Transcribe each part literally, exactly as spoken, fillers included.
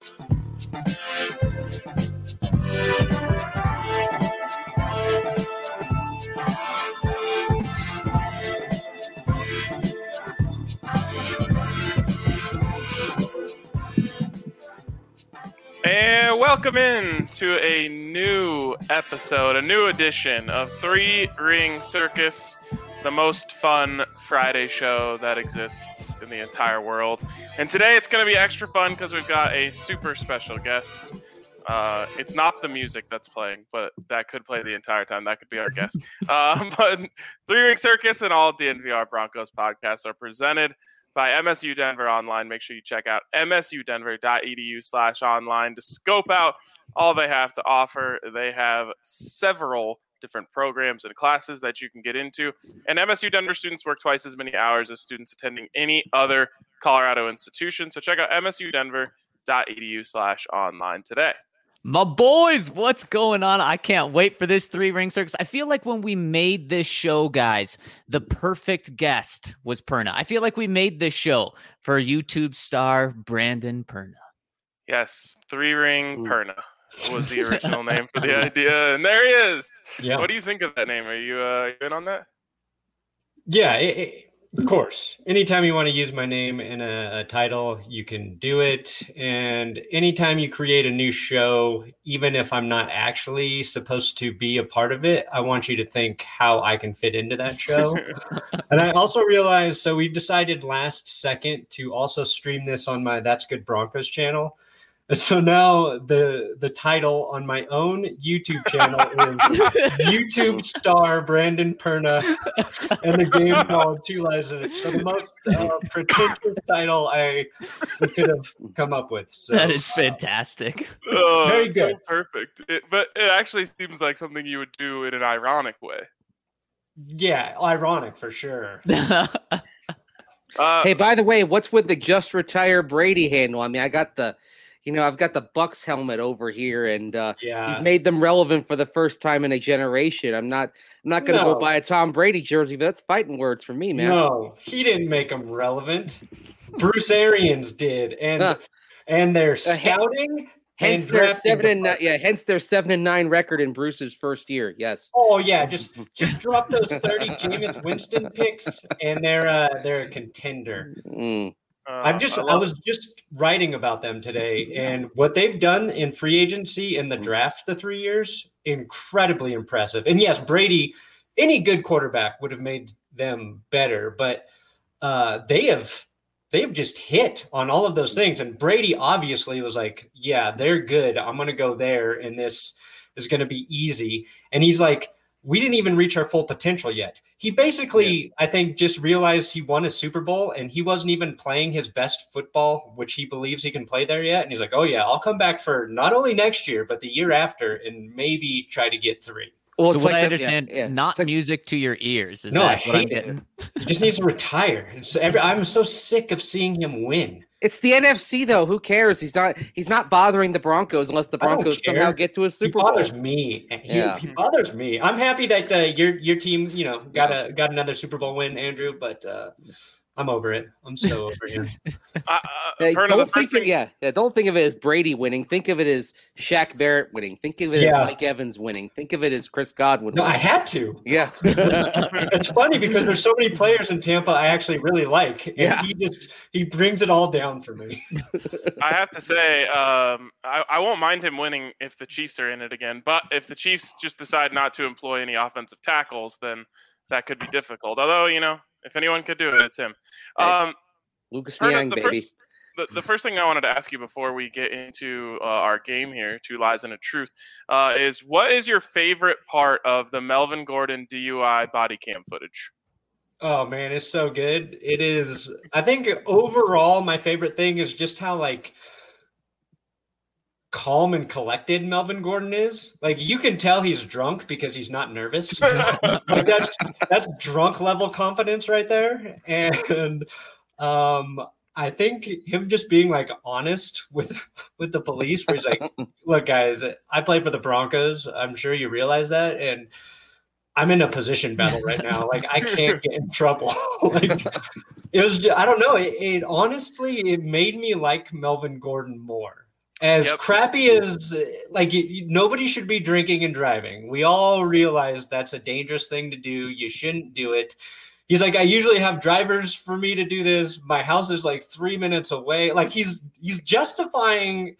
And welcome in to a new episode, a new edition of Three Ring Circus, the most fun Friday show that exists in the entire world. And today it's going to be extra fun because we've got a super special guest. Uh, it's not the music that's playing, but that could play the entire time. That could be our guest. uh, but Three Ring Circus and all of the N V R Broncos podcasts are presented by M S U Denver Online. Make sure you check out msudenver.edu slash online to scope out all they have to offer. They have several different programs and classes that you can get into. And M S U Denver students work twice as many hours as students attending any other Colorado institution. So check out msudenver.edu slash online today. My boys, what's going on? I can't wait for this Three Ring Circus. I feel like when we made this show, guys, the perfect guest was Perna. I feel like we made this show for YouTube star Brandon Perna. Yes, Three Ring Perna was the original name for the idea. And there he is. Yeah. What do you think of that name? Are you uh, in on that? Yeah, it, it, of course. Anytime you want to use my name in a, a title, you can do it. And anytime you create a new show, even if I'm not actually supposed to be a part of it, I want you to think how I can fit into that show. And I also realized, so we decided last second to also stream this on my That's Good Broncos channel. So now the the title on my own YouTube channel is YouTube star Brandon Perna and the game called Two Lies and So the most uh, pretentious title I could have come up with. So that is fantastic. Oh, very good. So perfect. It, but it actually seems like something you would do in an ironic way. Yeah, ironic for sure. Uh, hey, by the way, what's with the just retire Brady handle? I mean, I got the You know, I've got the Bucks helmet over here, and uh, yeah. he's made them relevant for the first time in a generation. I'm not, I'm not going to no. go buy a Tom Brady jersey, but that's fighting words for me, man. No, he didn't make them relevant. Bruce Arians did, and huh. and their scouting. Hence and their seven and nine, yeah. Hence their seven and nine record in Bruce's first year. Yes. Oh yeah, just just drop those thirty Jameis Winston picks, and they're uh, they're a contender. Mm. Uh, I'm just, I, I was just writing about them today, and what they've done in free agency in the draft the three years, incredibly impressive. And yes, Brady, any good quarterback would have made them better, but uh, they have, they've just hit on all of those things. And Brady obviously was like, yeah, they're good. I'm going to go there, and this is going to be easy. And he's like, we didn't even reach our full potential yet. He basically, yeah. I think, just realized he won a Super Bowl and he wasn't even playing his best football, which he believes he can play there yet. And he's like, oh, yeah, I'll come back for not only next year, but the year after and maybe try to get three. Well, so what like I understand, yeah, yeah. not like, music to your ears. Is no, that I what hate I'm getting? It. He just needs to retire. It's every, I'm so sick of seeing him win. It's the N F C though. Who cares? He's not. He's not bothering the Broncos unless the Broncos somehow get to a Super Bowl. He bothers Bowl. me. He, yeah. he bothers me. I'm happy that uh, your your team, you know, got a got another Super Bowl win, Andrew. But uh, I'm over it. I'm so over him. uh, uh, hey, don't think of, yeah, yeah. Don't think of it as Brady winning. Think of it as Shaq Barrett winning. Think of it yeah. as Mike Evans winning. Think of it as Chris Godwin no, winning. I had to. Yeah. It's funny because there's so many players in Tampa I actually really like. And yeah. he just he brings it all down for me. I have to say, um, I, I won't mind him winning if the Chiefs are in it again. But if the Chiefs just decide not to employ any offensive tackles, then that could be difficult. Although, you know, if anyone could do it, it's him. Um, Lucas Niang, the baby. First, the, the first thing I wanted to ask you before we get into uh, our game here, Two Lies and a Truth, uh, is what is your favorite part of the Melvin Gordon D U I body cam footage? Oh, man, it's so good. It is. I think overall my favorite thing is just how, like, calm and collected Melvin Gordon is. Like, you can tell he's drunk because he's not nervous. Like that's that's drunk level confidence right there. And um I think him just being like honest with with the police, where he's like, look guys, I play for the Broncos, I'm sure you realize that, and I'm in a position battle right now. Like, I can't get in trouble. Like, it was just, I don't know, it, it honestly it made me like Melvin Gordon more. As Yep. crappy as like you, nobody should be drinking and driving. We all realize that's a dangerous thing to do. You shouldn't do it. He's like, I usually have drivers for me to do this. My house is like three minutes away. Like he's he's justifying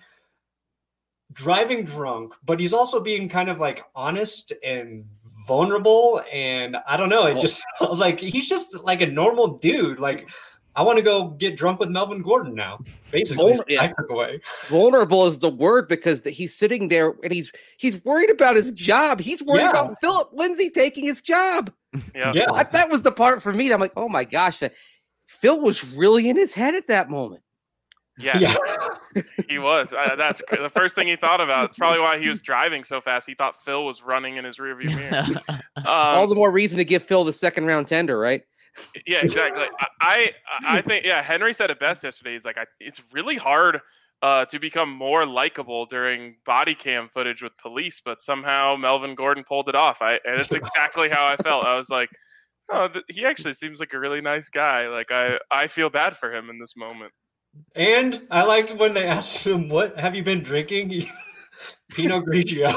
driving drunk, but he's also being kind of like honest and vulnerable. And I don't know. It just I was like, he's just like a normal dude. Like, I want to go get drunk with Melvin Gordon now. Basically, Vulner- yeah. I took away. Vulnerable is the word because the, he's sitting there and he's he's worried about his job. He's worried Yeah. about Philip Lindsay taking his job. Yeah. Yeah. I, that was the part for me. That I'm like, oh my gosh, that, Phil was really in his head at that moment. Yeah, Yeah. he was. Uh, that's c- the first thing he thought about. It's probably why he was driving so fast. He thought Phil was running in his rearview mirror. All Um, the more reason to give Phil the second round tender, right? yeah, exactly. I, I I think yeah. Henry said it best yesterday. He's like, I, it's really hard uh, to become more likable during body cam footage with police, but somehow Melvin Gordon pulled it off. I and it's exactly how I felt. I was like, oh, th- he actually seems like a really nice guy. Like I I feel bad for him in this moment. And I liked when they asked him, "What have you been drinking?" He- Pinot Grigio.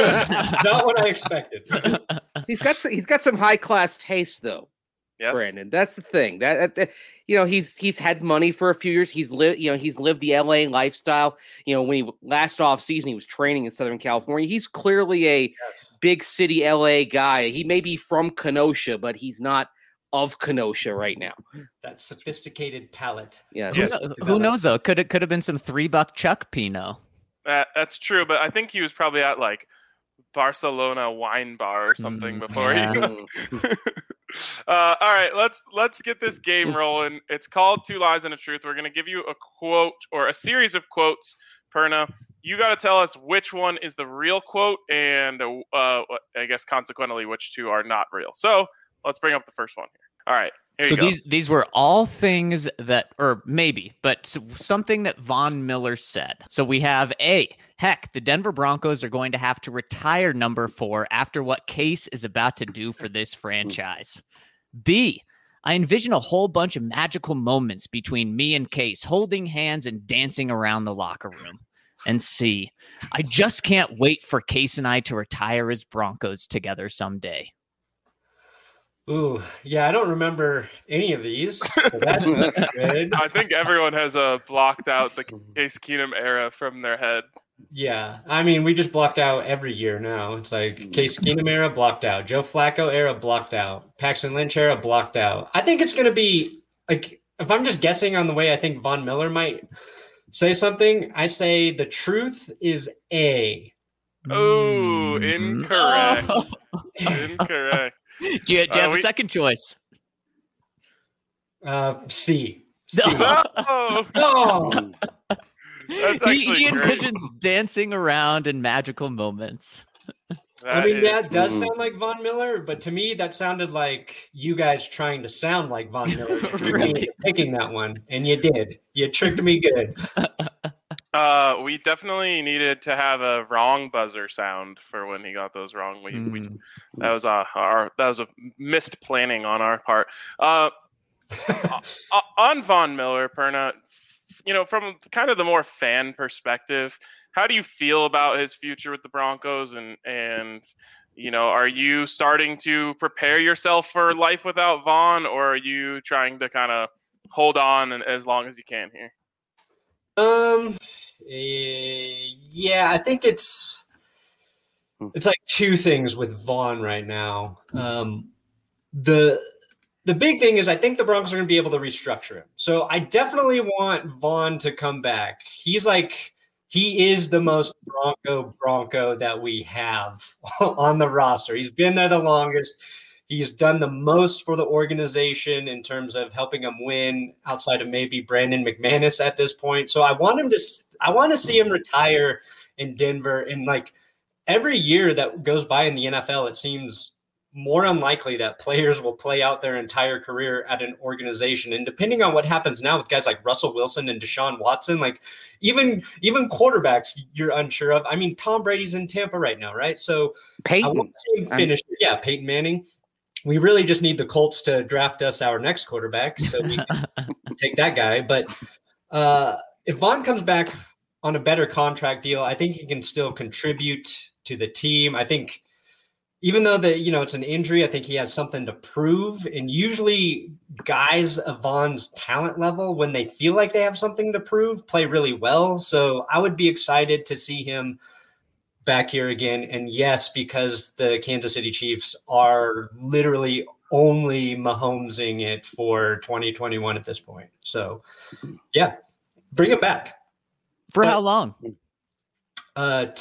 Not what I expected. He's got some, he's got some high class taste though. Yes. Brandon, that's the thing. That, that, that you know, he's he's had money for a few years. He's lived, you know, he's lived the L A lifestyle. You know, when he last off season, he was training in Southern California. He's clearly a Yes. big city L A guy. He may be from Kenosha, but he's not of Kenosha right now. That sophisticated palate. Yeah, Who, Yeah. kno- who knows though? Could it could have been some three buck Chuck Pinot. That, that's true, but I think he was probably at like Barcelona wine bar or something Mm, before yeah. he. uh, all right, let's let's get this game rolling. It's called Two Lies and a Truth. We're gonna give you a quote or a series of quotes, Perna. You got to tell us which one is the real quote, and uh, I guess consequently which two are not real. So let's bring up the first one here. All right, here So you go. these these were all things that, or maybe, but s- something that Von Miller said. So we have A, heck, the Denver Broncos are going to have to retire number four after what Case is about to do for this franchise. B, I envision a whole bunch of magical moments between me and Case, holding hands and dancing around the locker room. And C, I just can't wait for Case and I to retire as Broncos together someday. Ooh, yeah, I don't remember any of these. So that's good. I think everyone has uh, blocked out the Case Keenum era from their head. Yeah, I mean, we just blocked out every year now. It's like Case Keenum era blocked out, Joe Flacco era blocked out, Paxton Lynch era blocked out. I think it's going to be like, if I'm just guessing on the way I think Von Miller might say something, I say the truth is A. Oh, Mhm. incorrect. Oh. Incorrect. Do you, do you Uh, have we- a second choice? Uh, C. C. Oh, Oh, that's he, actually he great. envisions dancing around in magical moments. I mean, is- that does Mm. sound like Von Miller, but to me, that sounded like you guys trying to sound like Von Miller, tricked me Right. into picking that one, and you did. You tricked me good. Uh, we definitely needed to have a wrong buzzer sound for when he got those wrong. We, we Mm. that was uh, our that was a missed planning on our part. Uh, o- on Von Miller, Perna, you know, from kind of the more fan perspective, how do you feel about his future with the Broncos? And and you know, are you starting to prepare yourself for life without Von, or are you trying to kind of hold on and, as long as you can here? Um, eh, yeah, I think it's it's like two things with Vaughn right now. Um, the the big thing is I think the Broncos are going to be able to restructure him. So I definitely want Vaughn to come back. He's like he is the most Bronco Bronco that we have on the roster. He's been there the longest. He's done the most for the organization in terms of helping them win outside of maybe Brandon McManus at this point. So I want him to, I want to see him retire in Denver. And like every year that goes by in the N F L, it seems more unlikely that players will play out their entire career at an organization. And depending on what happens now with guys like Russell Wilson and Deshaun Watson, like even, even quarterbacks you're unsure of. I mean, Tom Brady's in Tampa right now, right? So I Peyton. want to see him finish. Yeah, Peyton Manning. We really just need the Colts to draft us our next quarterback, so we can take that guy. But uh, if Vaughn comes back, on a better contract deal. I think he can still contribute to the team. I think even though that, you know, it's an injury, I think he has something to prove. And usually guys of Vaughn's talent level, when they feel like they have something to prove, play really well. So I would be excited to see him back here again. And yes, because the Kansas City Chiefs are literally only Mahomesing it for twenty twenty-one at this point. So yeah, bring it back. For But, how long? Uh, t-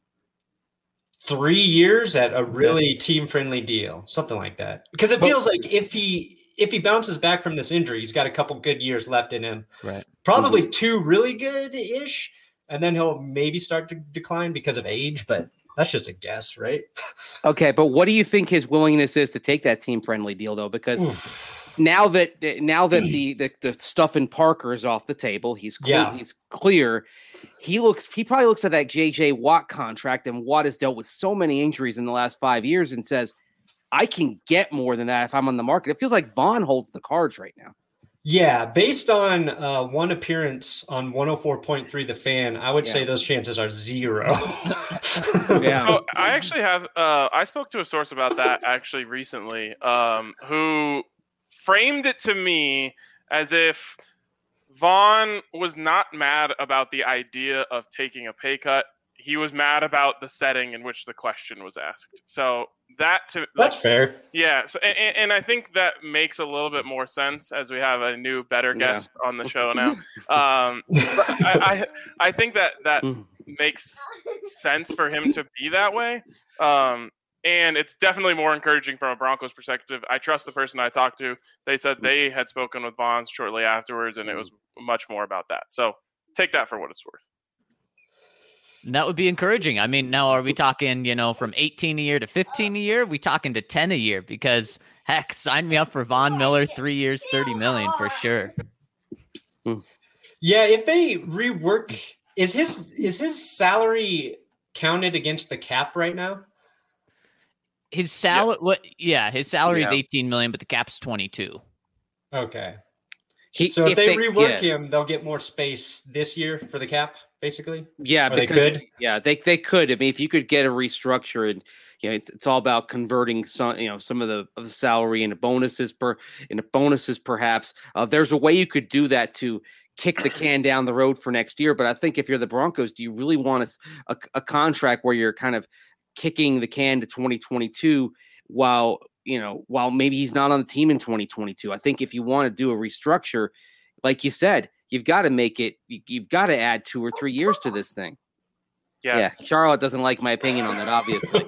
three years at a really team-friendly deal, something like that. Because it feels like if he if he bounces back from this injury, he's got a couple good years left in him. Right. Probably two really good-ish, and then he'll maybe start to decline because of age. But that's just a guess, right? Okay, but what do you think his willingness is to take that team-friendly deal, though? Because now that now that the, the the stuff in Parker is off the table, he's clear, Yeah. he's clear. He looks he probably looks at that J J Watt contract, and Watt has dealt with so many injuries in the last five years, and says, "I can get more than that if I'm on the market." It feels like Vaughn holds the cards right now. Yeah, based on uh, one appearance on one oh four point three The Fan, I would Yeah. say those chances are zero. Yeah. So I actually have uh, I spoke to a source about that actually recently, um, who framed it to me as if Vaughn was not mad about the idea of taking a pay cut. He was mad about the setting in which the question was asked. So that to That's fair. yeah, so, and, and I think that makes a little bit more sense as we have a new, better Yeah. guest on the show now. Um, but I, I I think that that makes sense for him to be that way, um, and it's definitely more encouraging from a Broncos perspective. I trust the person I talked to. They said they had spoken with Vaughn shortly afterwards, and it was much more about that. So take that for what it's worth. That would be encouraging. I mean, now are we talking, you know, from eighteen a year to fifteen a year? We talking to ten a year? Because heck, sign me up for Von Miller, three years, thirty million for sure. Yeah, if they rework, is his is his salary counted against the cap right now? His salary, what? Yeah, his salary is Yeah. eighteen million, but the cap's twenty-two. Okay. He, So if, they, they- rework yeah. him, they'll get more space this year for the cap, basically. Yeah, Or they because could? yeah, they they could. I mean, if you could get a restructure, and you know, it's, it's all about converting some, you know, some of the of the salary into bonuses per into bonuses, perhaps. Uh, there's a way you could do that to kick the can down the road for next year. But I think if you're the Broncos, do you really want a, a, a contract where you're kind of kicking the can to twenty twenty-two while you know while maybe he's not on the team in twenty twenty-two? I think if you want to do a restructure, like you said, you've got to make it. You, you've got to add two or three years to this thing. Yeah. Yeah, Charlotte doesn't like my opinion on that, obviously.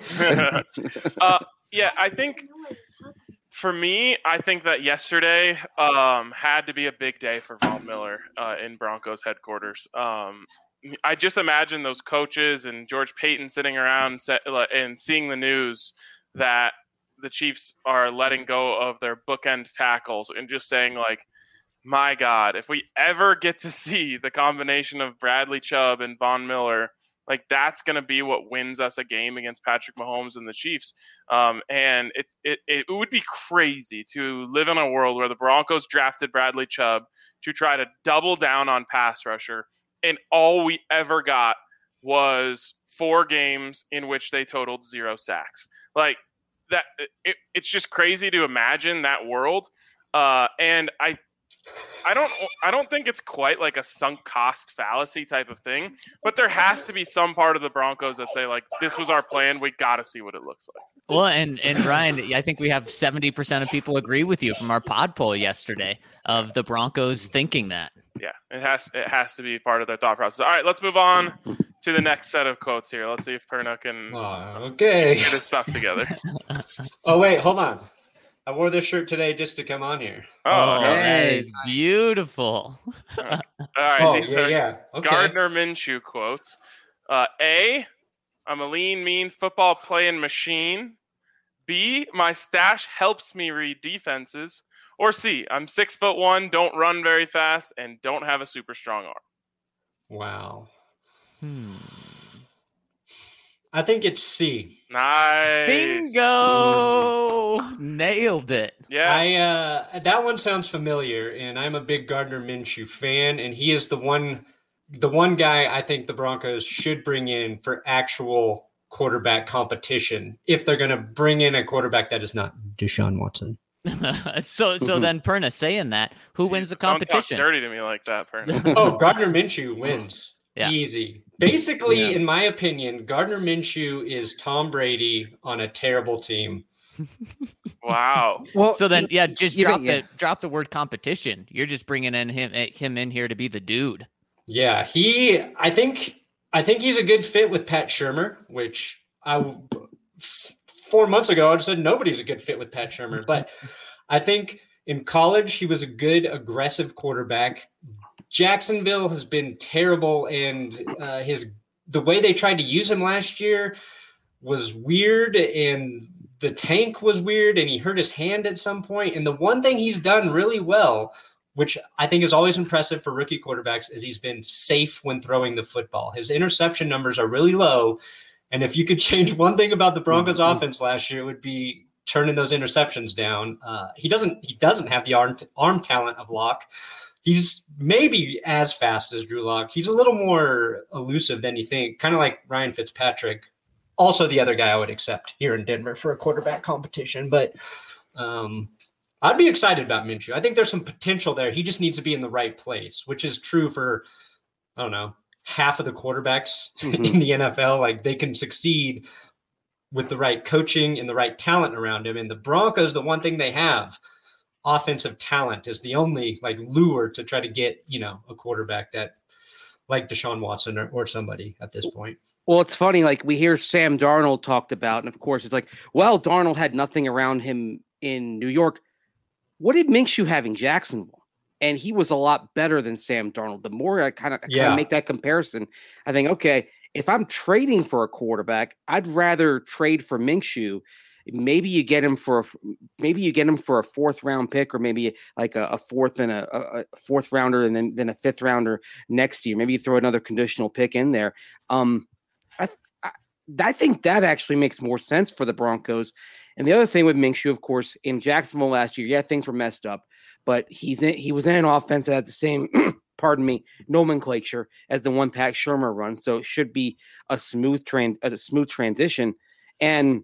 uh, yeah, I think for me, I think that yesterday um, had to be a big day for Von Miller uh, in Broncos headquarters. Um, I just imagine those coaches and George Payton sitting around set, and seeing the news that the Chiefs are letting go of their bookend tackles and just saying, like, my God, if we ever get to see the combination of Bradley Chubb and Von Miller, like that's going to be what wins us a game against Patrick Mahomes and the Chiefs. Um, and it, it it would be crazy to live in a world where the Broncos drafted Bradley Chubb to try to double down on pass rusher, and all we ever got was four games in which they totaled zero sacks. Like that, it, it's just crazy to imagine that world. Uh, and I. I don't I don't think it's quite like a sunk cost fallacy type of thing, but there has to be some part of the Broncos that say, like, this was our plan. We got to see what it looks like. Well, and and Ryan, I think we have seventy percent of people agree with you from our pod poll yesterday of the Broncos thinking that. Yeah, it has it has to be part of their thought process. All right, let's move on to the next set of quotes here. Let's see if Perna can Oh, okay. get his stuff together. Oh, wait, hold on. I wore this shirt today just to come on here. Oh, Oh, okay. that Hey, is beautiful. All right. Oh, These yeah, are yeah. Okay. Gardner Minshew quotes. Uh, A, I'm a lean, mean football playing machine. B, my stash helps me read defenses. Or C, I'm six foot one, don't run very fast, and don't have a super strong arm. Wow. Hmm. I think it's C. Nice. Bingo! Nailed it. Yes. I uh, that one sounds familiar, and I'm a big Gardner Minshew fan, and he is the one the one guy I think the Broncos should bring in for actual quarterback competition if they're going to bring in a quarterback that is not Deshaun Watson. so so then Perna, saying that, who wins the competition? Don't talk dirty to me like that, Perna. Oh, Gardner Minshew wins. Yeah. Easy. Basically, Yeah. in my opinion, Gardner Minshew is Tom Brady on a terrible team. Wow. Well, So then, yeah, just Yeah, drop yeah. the drop the word competition. You're just bringing in him him in here to be the dude. Yeah, he. I think. I think he's a good fit with Pat Shurmur, which I four months ago I said nobody's a good fit with Pat Shurmur, but I think in college he was a good aggressive quarterback. Jacksonville has been terrible, and uh, his the way they tried to use him last year was weird, and the tank was weird, and he hurt his hand at some point. And the one thing he's done really well, which I think is always impressive for rookie quarterbacks, is he's been safe when throwing the football. His interception numbers are really low. And if you could change one thing about the Broncos Mm-hmm. offense last year, it would be turning those interceptions down. Uh, he doesn't he doesn't have the arm, arm talent of Locke. He's maybe as fast as Drew Lock. He's a little more elusive than you think, kind of like Ryan Fitzpatrick. Also the other guy I would accept here in Denver for a quarterback competition. But um, I'd be excited about Minshew. I think there's some potential there. He just needs to be in the right place, which is true for, I don't know, half of the quarterbacks Mhm. in the N F L. Like they can succeed with the right coaching and the right talent around him. And the Broncos, the one thing they have, offensive talent, is the only like lure to try to get, you know, a quarterback that like Deshaun Watson or, or somebody at this point. Well, it's funny. Like we hear Sam Darnold talked about, and of course, it's like, well, Darnold had nothing around him in New York. What did Minshew have in Jacksonville? And he was a lot better than Sam Darnold. The more I kind of Yeah. make that comparison, I think, okay, if I'm trading for a quarterback, I'd rather trade for Minshew. Maybe you get him for a, maybe you get him for a fourth round pick, or maybe like a, a fourth and a, a fourth rounder, and then then a fifth rounder next year. Maybe you throw another conditional pick in there. Um, I, I I think that actually makes more sense for the Broncos. And the other thing with Minshew, of course, in Jacksonville last year, yeah, things were messed up, but he's in, he was in an offense that had the same, pardon me, nomenclature as the one Pat Shurmur runs. So it should be a smooth trans, a smooth transition, and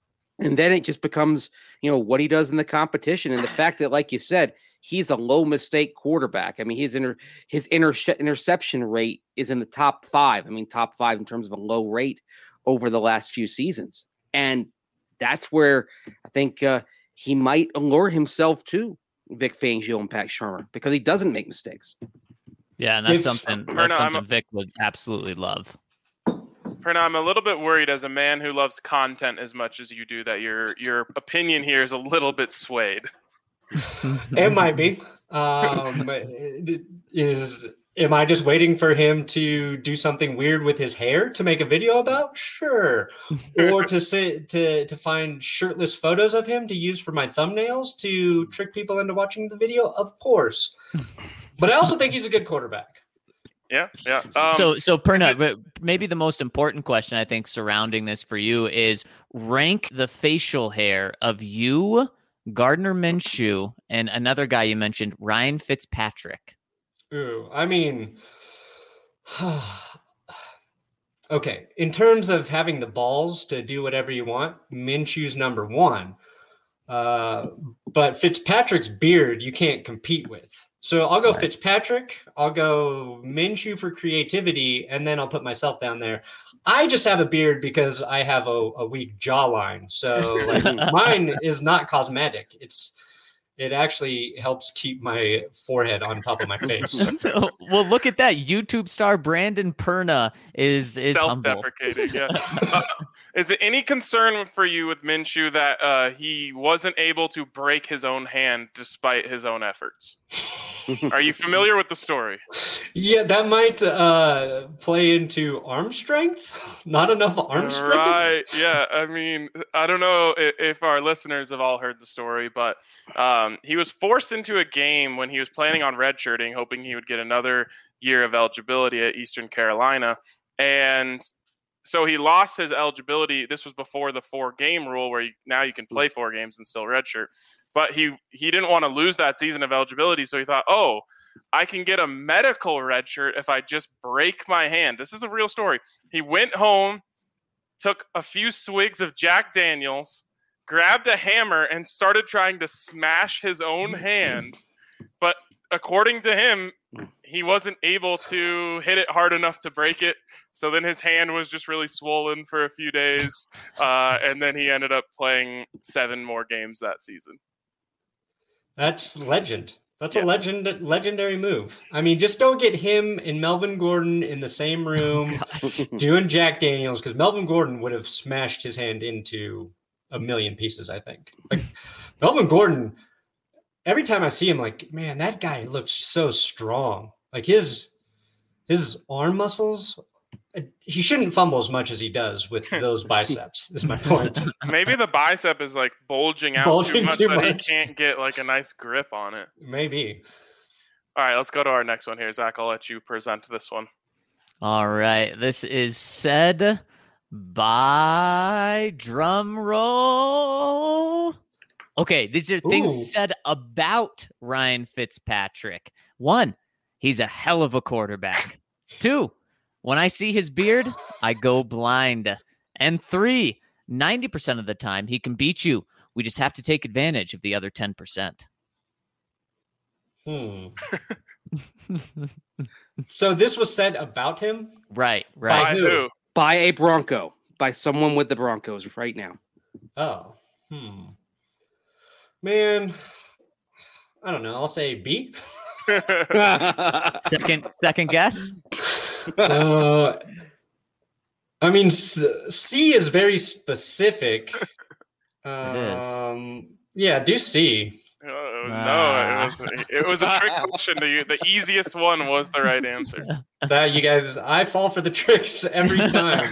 and then it just becomes, you know, what he does in the competition, and the fact that, like you said, he's a low mistake quarterback. I mean, his inter, his inter, interception rate is in the top five. I mean, top five in terms of a low rate over the last few seasons, and that's where I think uh, he might allure himself to Vic Fangio and Pat Shurmur, because he doesn't make mistakes. Yeah, and that's If- something Perna, that's I'm something a- Vic would absolutely love. Perna, I'm a little bit worried as a man who loves content as much as you do that your your opinion here is a little bit swayed. It might be. Um, is am I just waiting for him to do something weird with his hair to make a video about? Sure. Or to say to to find shirtless photos of him to use for my thumbnails to trick people into watching the video? Of course. But I also think he's a good quarterback. Yeah, yeah. Um, so, so Perna, it- but maybe the most important question I think surrounding this for you is rank the facial hair of you, Gardner Minshew, and another guy you mentioned, Ryan Fitzpatrick. Ooh, I mean, okay. In terms of having the balls to do whatever you want, Minshew's number one. Uh, but Fitzpatrick's beard you can't compete with. So I'll go Right. Fitzpatrick. I'll go Minshew for creativity, and then I'll put myself down there. I just have a beard because I have a, a weak jawline. So like, mine is not cosmetic. It's it actually helps keep my forehead on top of my face. Well, look at that. YouTube star Brandon Perna is is humble. self-deprecating. Yeah. Uh, is it any concern for you with Minshew that uh, he wasn't able to break his own hand despite his own efforts? Are you familiar with the story? Yeah, that might uh, play into arm strength. Not enough arm strength. Right. Yeah. I mean, I don't know if, if our listeners have all heard the story, but um, he was forced into a game when he was planning on redshirting, hoping he would get another year of eligibility at Eastern Carolina. And so he lost his eligibility. This was before the four-game rule where you, now you can play four games and still redshirt. But he, he didn't want to lose that season of eligibility, so he thought, oh, I can get a medical red shirt if I just break my hand. This is a real story. He went home, took a few swigs of Jack Daniels, grabbed a hammer, and started trying to smash his own hand. But according to him, he wasn't able to hit it hard enough to break it. So then his hand was just really swollen for a few days. Uh, and then he ended up playing seven more games that season. That's legend. That's Yeah. a legend, legendary move. I mean, just don't get him and Melvin Gordon in the same room doing Jack Daniels, because Melvin Gordon would have smashed his hand into a million pieces, I think. Like Melvin Gordon, every time I see him, like, man, that guy looks so strong. Like his his arm muscles, he shouldn't fumble as much as he does with those biceps, is my point. Maybe the bicep is like bulging out Bulging too much too that much. he can't get like a nice grip on it. Maybe. All right, let's go to our next one here. Zach, I'll let you present this one. All right. This is said by drum roll. Okay, these are things Ooh. said about Ryan Fitzpatrick. One, he's a hell of a quarterback. Two, when I see his beard, I go blind. And three, ninety percent of the time, he can beat you. We just have to take advantage of the other ten percent. Hmm. So this was said about him? Right, By right. By who? who? By a Bronco, by someone with the Broncos right now. Oh. Hmm. Man, I don't know. I'll say B. Second, second guess. uh, I mean, S- C is very specific. Um, is. Yeah, do C. Oh, no, Ah. it was it was a trick question to you. The easiest one was the right answer. That you guys, I fall for the tricks every time.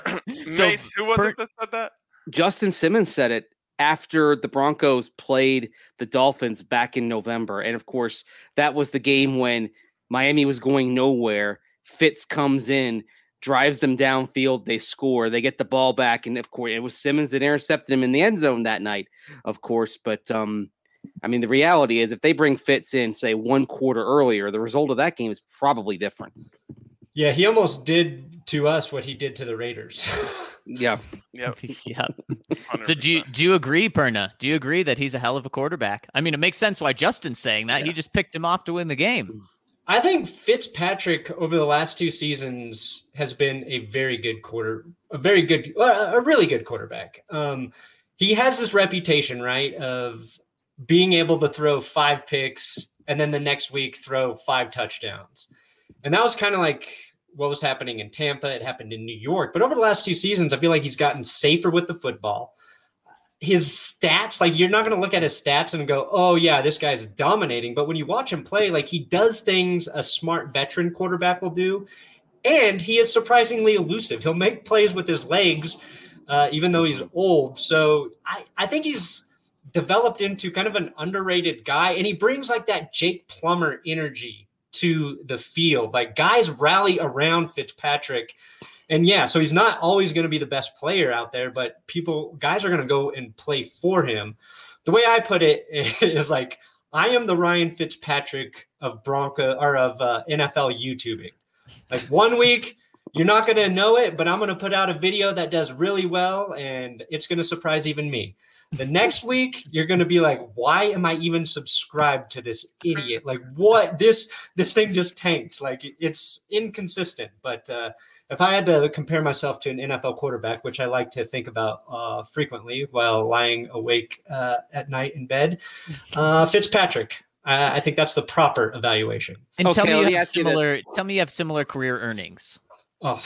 So, Mace, who was per- it that said that? Justin Simmons said it after the Broncos played the Dolphins back in November. And of course, that was the game when Miami was going nowhere. Fitz comes in, drives them downfield, they score, they get the ball back. And of course, it was Simmons that intercepted him in the end zone that night, of course. But um, I mean, the reality is if they bring Fitz in, say, one quarter earlier, the result of that game is probably different. Yeah, he almost did to us what he did to the Raiders. Yeah. Yep. Yeah. one hundred So do you, percent. do you agree, Perna? Do you agree that he's a hell of a quarterback? I mean, it makes sense why Justin's saying that. Yeah. He just picked him off to win the game. I think Fitzpatrick over the last two seasons has been a very good quarter, a very good, uh, a really good quarterback. Um, he has this reputation, right, of being able to throw five picks and then the next week throw five touchdowns. And that was kind of like what was happening in Tampa. It happened in New York. But over the last two seasons, I feel like he's gotten safer with the football. His stats, like you're not going to look at his stats and go, oh, yeah, this guy's dominating. But when you watch him play, like he does things a smart veteran quarterback will do. And he is surprisingly elusive. He'll make plays with his legs, uh, even though he's old. So I, I think he's developed into kind of an underrated guy. And he brings like that Jake Plummer energy to the field. Like guys rally around Fitzpatrick. And yeah, so he's not always going to be the best player out there, but people, guys are going to go and play for him. The way I put it is like, I am the Ryan Fitzpatrick of Bronco or of uh, N F L YouTubing. Like one week, you're not going to know it, but I'm going to put out a video that does really well, and it's going to surprise even me. The next week, you're going to be like, why am I even subscribed to this idiot? Like what? This, this thing just tanked. Like it's inconsistent, but uh, if I had to compare myself to an N F L quarterback, which I like to think about uh, frequently while lying awake uh, at night in bed, uh, Fitzpatrick. I, I think that's the proper evaluation. And tell Okay, me let you me have ask you this. similar. Tell me you have similar career earnings. Oh,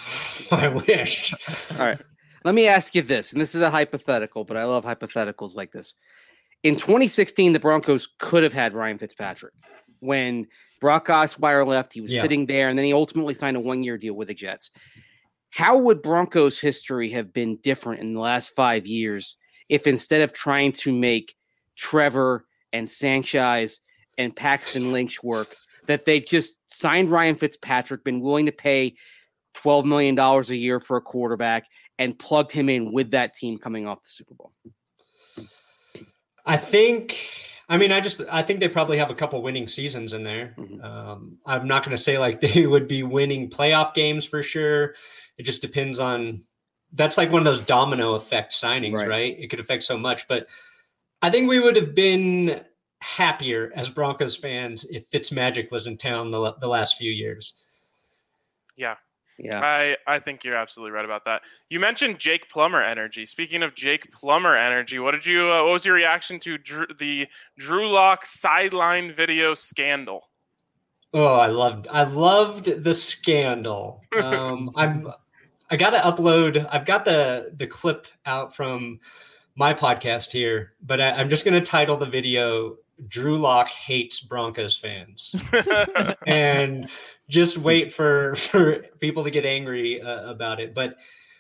I wish. All right. Let me ask you this, and this is a hypothetical, but I love hypotheticals like this. In twenty sixteen, the Broncos could have had Ryan Fitzpatrick. When Brock Osweiler left, he was Yeah. sitting there, and then he ultimately signed a one-year deal with the Jets. How would Broncos history have been different in the last five years if instead of trying to make Trevor and Sanchez and Paxton Lynch work, that they just signed Ryan Fitzpatrick, been willing to pay twelve million dollars a year for a quarterback, and plugged him in with that team coming off the Super Bowl? I think I mean, I just I think they probably have a couple winning seasons in there. Mhm. Um, I'm not going to say like they would be winning playoff games for sure. It just depends on. That's like one of those domino effect signings, Right. right? It could affect so much, but I think we would have been happier as Broncos fans if Fitzmagic was in town the, the last few years. Yeah. Yeah. I, I think you're absolutely right about that. You mentioned Jake Plummer energy. Speaking of Jake Plummer energy, what did you? Uh, what was your reaction to Drew, the Drew Lock sideline video scandal? Oh, I loved I loved the scandal. Um, I'm I got to upload. I've got the the clip out from my podcast here, but I, I'm just going to title the video "Drew Lock Hates Broncos Fans," and just wait for for people to get angry uh, about it. But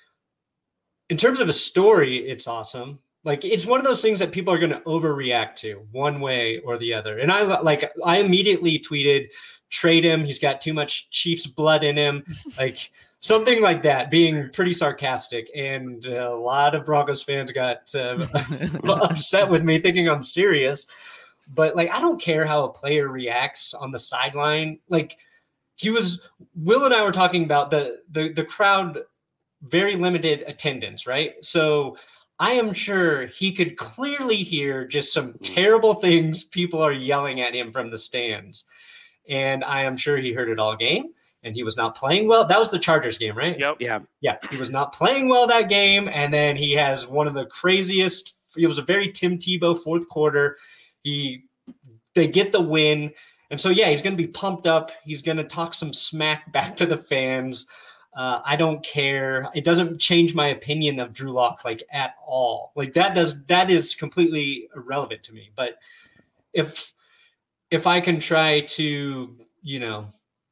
in terms of a story, it's awesome. Like, it's one of those things that people are going to overreact to one way or the other. And I like I immediately tweeted, "Trade him. He's got too much Chiefs blood in him." Like something like that, being pretty sarcastic. And a lot of Broncos fans got uh, upset with me, thinking I'm serious. But like, I don't care how a player reacts on the sideline. Like, he was Will and I were talking about the the the crowd, very limited attendance, right? So I am sure he could clearly hear just some terrible things people are yelling at him from the stands. And I am sure he heard it all game, and he was not playing well. That was the Chargers game, right? Yep. Yeah. Yeah, he was not playing well that game. And then he has one of the craziest, it was a very Tim Tebow fourth quarter. He, they get the win. And so, yeah, he's going to be pumped up. He's going to talk some smack back to the fans. Uh, I don't care. It doesn't change my opinion of Drew Lock like at all. Like that does, that is completely irrelevant to me. But if, if I can try to, you know,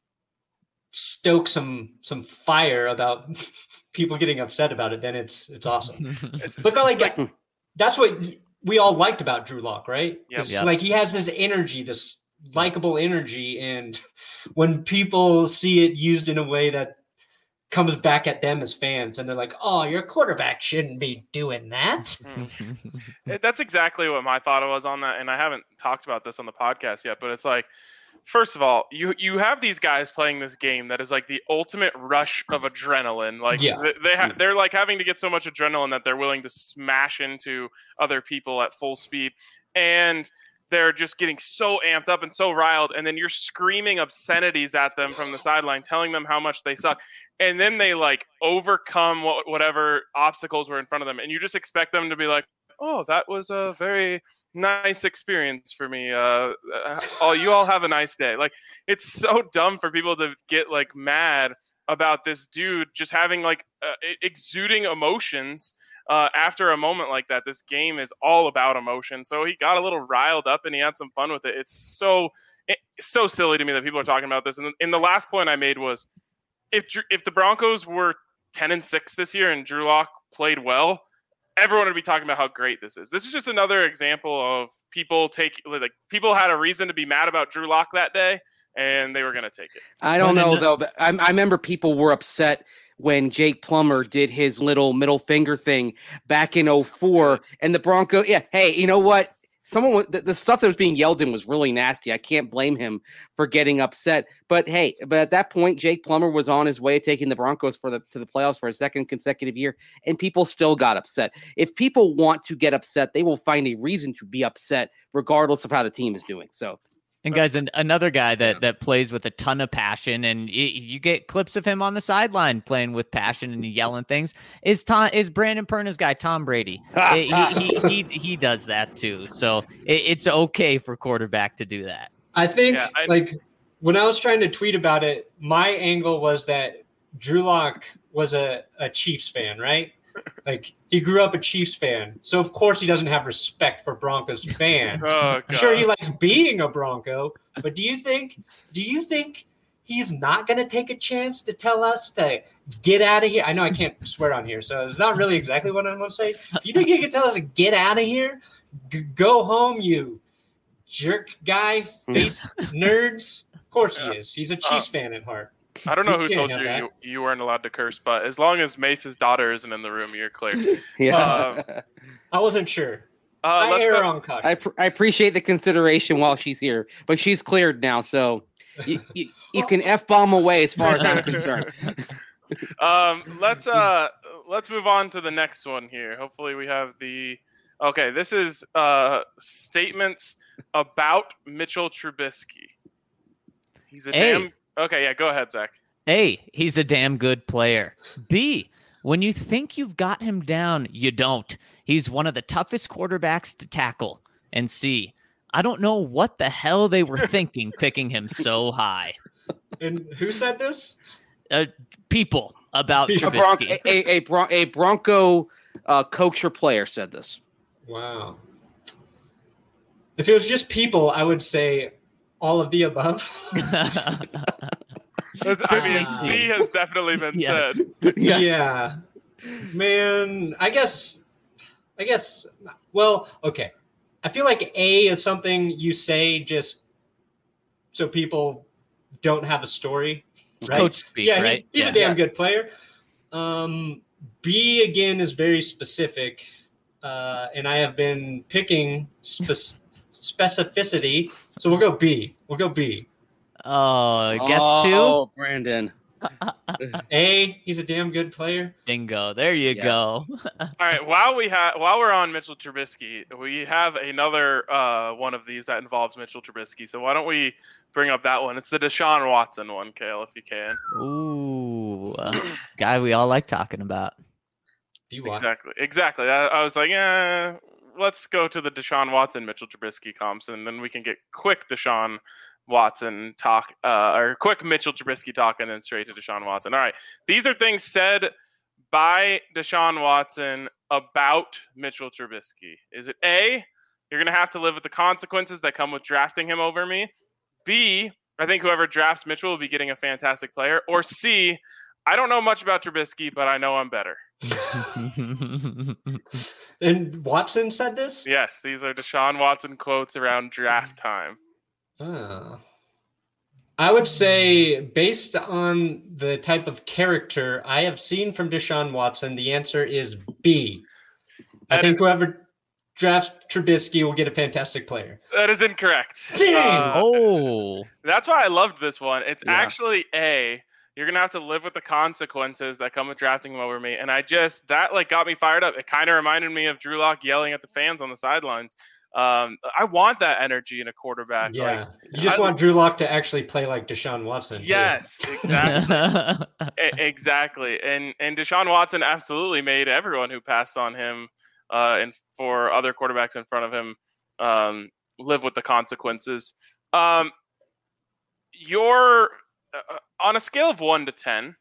stoke some, some fire about people getting upset about it, then it's, it's awesome. It's, But like, like, that's what we all liked about Drew Lock, right? Yep. It's Yep. like he has this energy, this likable energy. And when people see it used in a way that comes back at them as fans, and they're like, "Oh, your quarterback shouldn't be doing that." It- that's exactly what my thought was on that, and I haven't talked about this on the podcast yet, but it's like, first of all, you you have these guys playing this game that is like the ultimate rush of adrenaline. Like Yeah. they, they ha- they're like having to get so much adrenaline that they're willing to smash into other people at full speed, and they're just getting so amped up and so riled, and then you're screaming obscenities at them from the sideline, telling them how much they suck, and then they like overcome what, whatever obstacles were in front of them, and you just expect them to be like, "Oh, that was a very nice experience for me. Uh, uh, oh, you all have a nice day." Like, it's so dumb for people to get like mad about this dude just having like uh, exuding emotions. Uh, after a moment like that. This game is all about emotion. So he got a little riled up and he had some fun with it. It's so it's so silly to me that people are talking about this. And, and the last point I made was, if if the Broncos were ten and six this year and Drew Lock played well, everyone would be talking about how great this is. This is just another example of people take like people had a reason to be mad about Drew Lock that day, and they were going to take it. I don't Well, know then- though, but I, I remember people were upset when Jake Plummer did his little middle finger thing back in oh four, and the Bronco. Yeah, hey, you know what? Someone was- the, the stuff that was being yelled in was really nasty. I can't blame him for getting upset. But hey, but at that point, Jake Plummer was on his way to taking the Broncos for the to the playoffs for a second consecutive year, and people still got upset. If people want to get upset, they will find a reason to be upset, regardless of how the team is doing. So. And guys, an, another guy that, that plays with a ton of passion, and y- you get clips of him on the sideline playing with passion and yelling things, is Tom is Brandon Perna's guy, Tom Brady. he, he, he he does that too. So it, it's okay for quarterback to do that. I think Yeah, I- like when I was trying to tweet about it, my angle was that Drew Lock was a, a Chiefs fan, right? Like he grew up a Chiefs fan. So of course he doesn't have respect for Broncos fans. Oh, I'm sure he God. likes being a Bronco, but do you think do you think he's not going to take a chance to tell us to get out of here? I know I can't swear on here, so it's not really exactly what I'm going to say. Do you think he can tell us to get out of here? G- go home, you jerk guy face nerds. Of course he Yeah. is. He's a Chiefs Uh, fan at heart. I don't know You who can't told have you, that. you you weren't allowed to curse, but as long as Mace's daughter isn't in the room, you're clear. Yeah. Um, I wasn't sure. Uh, I let's err go. on caution. I, pr- I appreciate the consideration while she's here, but she's cleared now, so you, you, you can F-bomb away as far as I'm concerned. um, let's uh, let's move on to the next one here. Hopefully, we have the. Okay, this is uh statements about Mitchell Trubisky. He's a Hey. damn. Okay, yeah, go ahead, Zach. A, he's a damn good player. B, when you think you've got him down, you don't. He's one of the toughest quarterbacks to tackle. And C, I don't know what the hell they were thinking picking him so high. And who said this? Uh, people about A A, Bron- Trubisky. a, a, Bron- a Bronco uh, coach or player said this. Wow. If it was just people, I would say all of the above. That's- I mean, Certainly C C. has definitely been Yes. said. Yes. Yeah. Man, I guess I guess well, okay. I feel like A is something you say just so people don't have a story. Right? Coach speak, yeah, right? he's, he's Yeah. a damn Yes. good player. Um, B again is very specific, uh, and I have been picking spe- specificity. So we'll go B. We'll go B. Oh, guess Oh, Brandon. A, he's a damn good player. two? Bingo. There you Yes. go. All right, while we have while we're on Mitchell Trubisky, we have another uh, one of these that involves Mitchell Trubisky. So why don't we bring up that one? It's the Deshaun Watson one, Kale, if you can. Ooh, uh, guy we all like talking about. Do you want? Exactly, exactly. I, I was like, eh, let's go to the Deshaun Watson Mitchell Trubisky comps, and then we can get quick Deshaun Watson talk, uh, or quick Mitchell Trubisky talk, and then straight to Deshaun Watson. All right, these are things said by Deshaun Watson about Mitchell Trubisky. Is it A, you're going to have to live with the consequences that come with drafting him over me? B, I think whoever drafts Mitchell will be getting a fantastic player. Or C, I don't know much about Trubisky, but I know I'm better. And Watson said this? Yes, these are Deshaun Watson quotes around draft time. Oh. I would say, based on the type of character I have seen from Deshaun Watson, the answer is B. I That think is- whoever drafts Trubisky will get a fantastic player. That is incorrect. Dang! Uh, Oh, That's why I loved this one. It's Yeah. actually A. You're gonna have to live with the consequences that come with drafting him over me, and I just that like got me fired up. It kind of reminded me of Drew Lock yelling at the fans on the sidelines. Um, I want that energy in a quarterback. Yeah. Like, you just I- want Drew Lock to actually play like Deshaun Watson. too. yes, exactly, E- exactly. And and Deshaun Watson absolutely made everyone who passed on him, uh, and for other quarterbacks in front of him, um, live with the consequences. Um, your uh, on a scale of one to ten,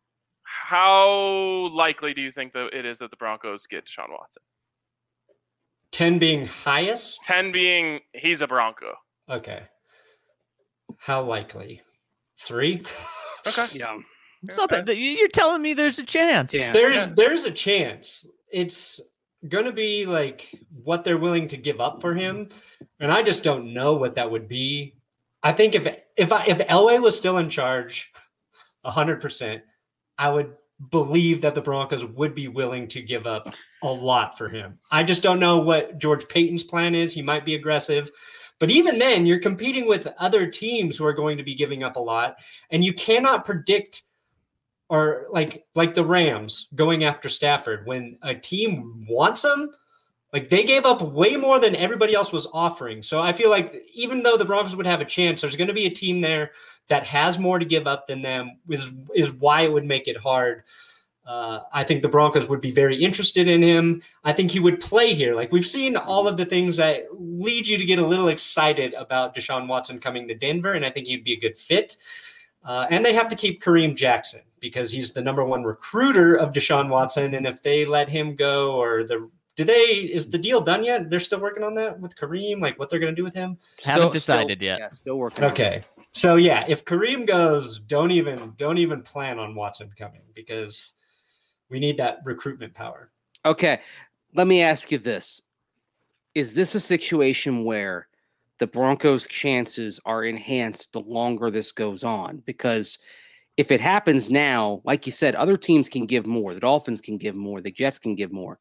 how likely do you think that it is that the Broncos get Deshaun Watson? ten being highest? ten being he's a Bronco. Okay. How likely? Three? Okay. Yeah. Stop it. You're telling me there's a chance. Yeah. There's there's a chance. It's gonna be like what they're willing to give up for him, and I just don't know what that would be. I think if if I if Elway was still in charge, a hundred percent, I would believe that the Broncos would be willing to give up a lot for him. I just don't know what George Payton's plan is. He might be aggressive, but even then, you're competing with other teams who are going to be giving up a lot, and you cannot predict. Or like like the Rams going after Stafford when a team wants him, like they gave up way more than everybody else was offering. So I feel like even though the Broncos would have a chance, there's going to be a team there that has more to give up than them. Is is why it would make it hard. Uh, I think the Broncos would be very interested in him. I think he would play here. Like we've seen all of the things that lead you to get a little excited about Deshaun Watson coming to Denver, and I think he'd be a good fit. Uh, and they have to keep Kareem Jackson because he's the number one recruiter of Deshaun Watson. And if they let him go, or the do they is the deal done yet? They're still working on that with Kareem, like what they're going to do with him. Haven't Still- decided still- yet. Yeah, still working. on it. Okay, so yeah, if Kareem goes, don't even don't even plan on Watson coming because we need that recruitment power. Okay, let me ask you this: is this a situation where the Broncos' chances are enhanced the longer this goes on? Because if it happens now, like you said, other teams can give more. The Dolphins can give more. The Jets can give more.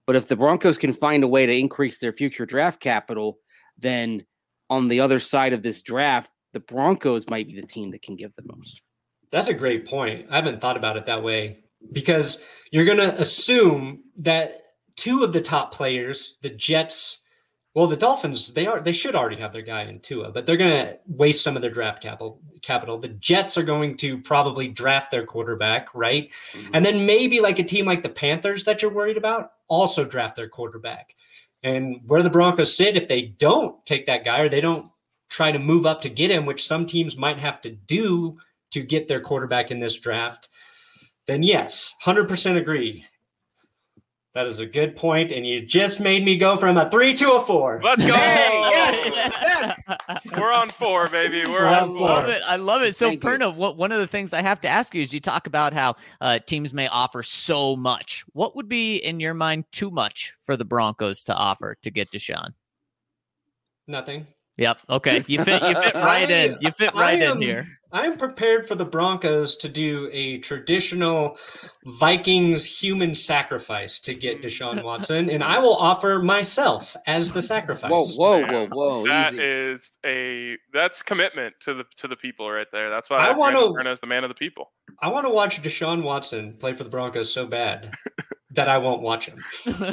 But if the Broncos can find a way to increase their future draft capital, then on the other side of this draft, the Broncos might be the team that can give the most. That's a great point. I haven't thought about it that way, because you're going to assume that two of the top players, the Jets, well, the Dolphins, they are they should already have their guy in Tua, but they're going to waste some of their draft capital. Capital. The Jets are going to probably draft their quarterback, right? Mm-hmm. And then maybe like a team like the Panthers that you're worried about also draft their quarterback. And where the Broncos sit, if they don't take that guy or they don't try to move up to get him, which some teams might have to do to get their quarterback in this draft, then yes, one hundred percent agree. That is a good point, and you just made me go from a three to a four. Let's go! Hey, yes. Yes. We're on four, baby. We're I on four. love it. I love it. So, Thank Perna, what, one of the things I have to ask you is you talk about how uh, teams may offer so much. What would be, in your mind, too much for the Broncos to offer to get Deshaun? Nothing. Yep. Okay. You fit. You fit right in. You fit right am, in here. I'm prepared for the Broncos to do a traditional Vikings human sacrifice to get Deshaun Watson, and I will offer myself as the sacrifice. Whoa, whoa, whoa, whoa! That easy. is a that's commitment to the to the people right there. That's why I I wanna- want to as the man of the people. I want to watch Deshaun Watson play for the Broncos so bad that I won't watch him.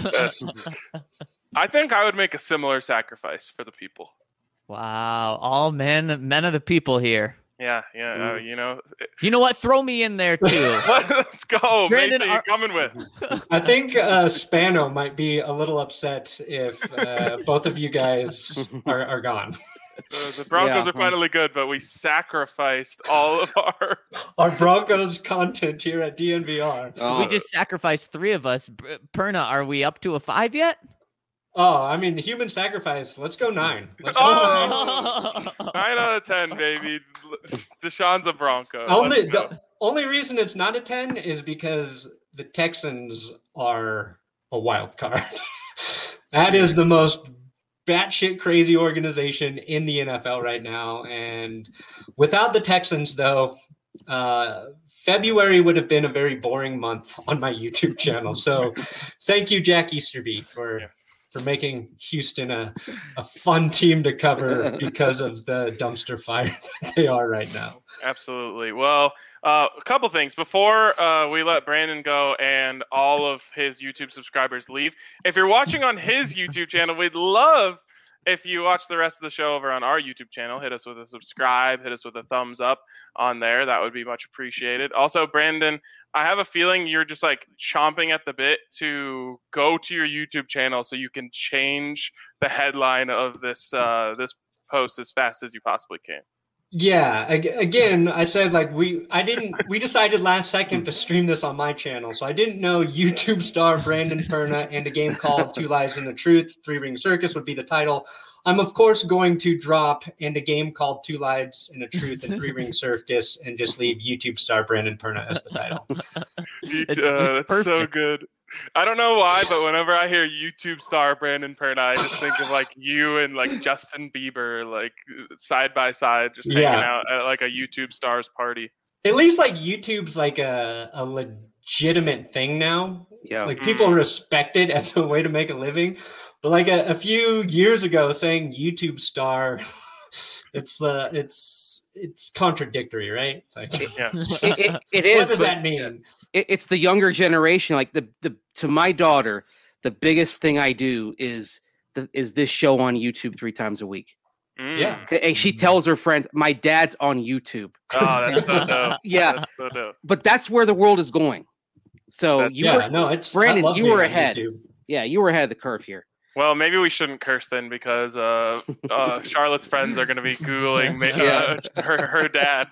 I think I would make a similar sacrifice for the people. Wow. All men, men of the people here. Yeah, yeah, uh, you know. You know what? Throw me in there too. Let's go. Brandon, Mason, you are- coming with? I think uh, Spano might be a little upset if uh, both of you guys are, are gone. The, the Broncos Yeah. are finally good, but we sacrificed all of our. Our Broncos content here at D N V R. So we just sacrificed three of us. B- Perna, are we up to a five yet? Oh, I mean, human sacrifice. Let's go nine. Let's go nine. Oh, nine out of ten, baby. Deshaun's a Bronco. Only Let's go. the only reason it's not a ten is because the Texans are a wild card. That is the most batshit crazy organization in the N F L right now. And without the Texans, though, uh, February would have been a very boring month on my YouTube channel. So thank you, Jack Easterby, for Yes. for making Houston a, a fun team to cover because of the dumpster fire that they are right now. Absolutely. Well, uh, a couple things before uh, we let Brandon go and all of his YouTube subscribers leave. If you're watching on his YouTube channel, we'd love if you watch the rest of the show over on our YouTube channel. Hit us with a subscribe, hit us with a thumbs up on there. That would be much appreciated. Also, Brandon, I have a feeling you're just like chomping at the bit to go to your YouTube channel so you can change the headline of this uh, this post as fast as you possibly can. Yeah, ag- again, I said like we I didn't we decided last second to stream this on my channel. So I didn't know YouTube star Brandon Perna and a game called Two Lies and the Truth, Three Ring Circus would be the title. I'm of course going to drop and a game called Two Lies and a Truth and Three Ring Circus and just leave YouTube star Brandon Perna as the title. You- It's- uh, it's that's so perfect. good. I don't know why, but whenever I hear YouTube star Brandon Perna, I just think of like you and like Justin Bieber, like side by side, just hanging Yeah. out at like a YouTube stars party. At least like YouTube's like a, a legitimate thing now. Yeah. Like people respect it as a way to make a living. But like a, a few years ago, saying YouTube star, it's uh, it's it's contradictory, right? It's like, Yes. It, it, it is. what does but that mean? It, it's the younger generation. Like the the to my daughter, the biggest thing I do is the, is this show on YouTube three times a week. Mm. Yeah. And she tells her friends, "My dad's on YouTube." Oh, that's so dope. Yeah, That's so dope. but that's where the world is going. So That's- you yeah, were, no, it's Brandon, I love you being were on ahead. YouTube. yeah, you were ahead of the curve here. Well, maybe we shouldn't curse then because uh, uh, Charlotte's friends are going to be Googling ma- uh, her, her dad.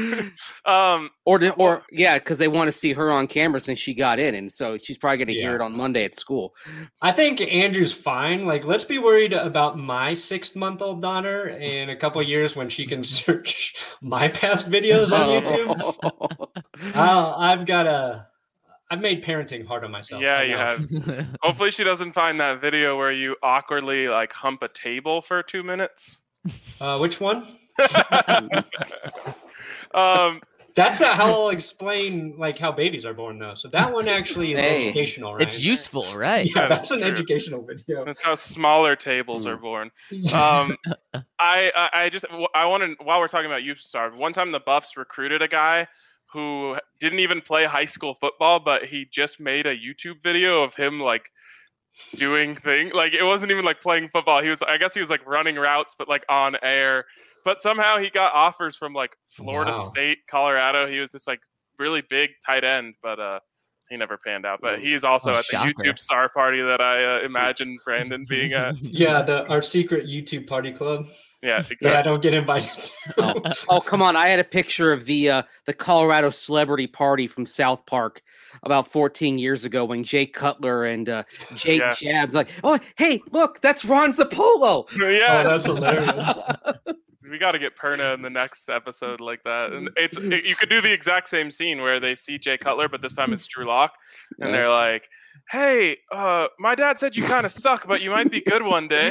um, Or to, or yeah, because they want to see her on camera since she got in, and so she's probably going to hear Yeah. it on Monday at school. I think Andrew's fine. Like, let's be worried about my six-month-old daughter in a couple of years when she can search my past videos on YouTube. Uh, I've got a. I've made parenting hard on myself. yeah, I you know. have. Hopefully, she doesn't find that video where you awkwardly like hump a table for two minutes. Uh, which one? um, That's not how I'll explain like how babies are born, though. So that one actually is Hey. educational, right? It's useful, right? Yeah, that's an True. educational video. That's how smaller tables are Mm. born. Um, I, I I just I want to while we're talking about YouTube Star, one time the Buffs recruited a guy who didn't even play high school football, but he just made a YouTube video of him like doing thing. Like it wasn't even like playing football. He was I guess he was like running routes, but like on air. But somehow he got offers from like Florida Wow. State, Colorado. He was this like really big tight end, but uh, he never panned out. But he's also Oh, at the shocker. YouTube Star party that I uh, imagine Brandon being at. Yeah, the our secret YouTube party club. Yeah, Yeah, I exactly. don't get invited. Oh, oh, come on! I had a picture of the uh, the Colorado celebrity party from South Park about fourteen years ago when Jay Cutler and uh, Jake Yes. Jabs like, oh, hey, look, that's Ron Zapolo. Yeah, Oh, that's hilarious. we got to get Perna in the next episode like that. And it's it, you could do the exact same scene where they see Jay Cutler, but this time it's Drew Lock, and Yeah. they're like, "Hey, uh, my dad said you kind of suck, but you might be good one day."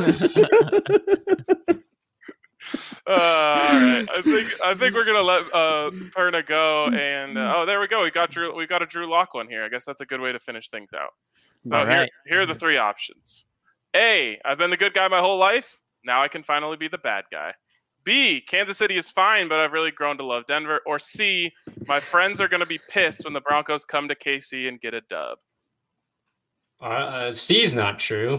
Uh, all right, I think I think we're gonna let uh, Perna go, and uh, oh, there we go. We got Drew. We got a Drew Lock one here. I guess that's a good way to finish things out. So All here, right. here are the three options. A, I've been the good guy my whole life. Now I can finally be the bad guy. B, Kansas City is fine, but I've really grown to love Denver. Or C, my friends are going to be pissed when the Broncos come to K C and get a dub. Uh, C's not true.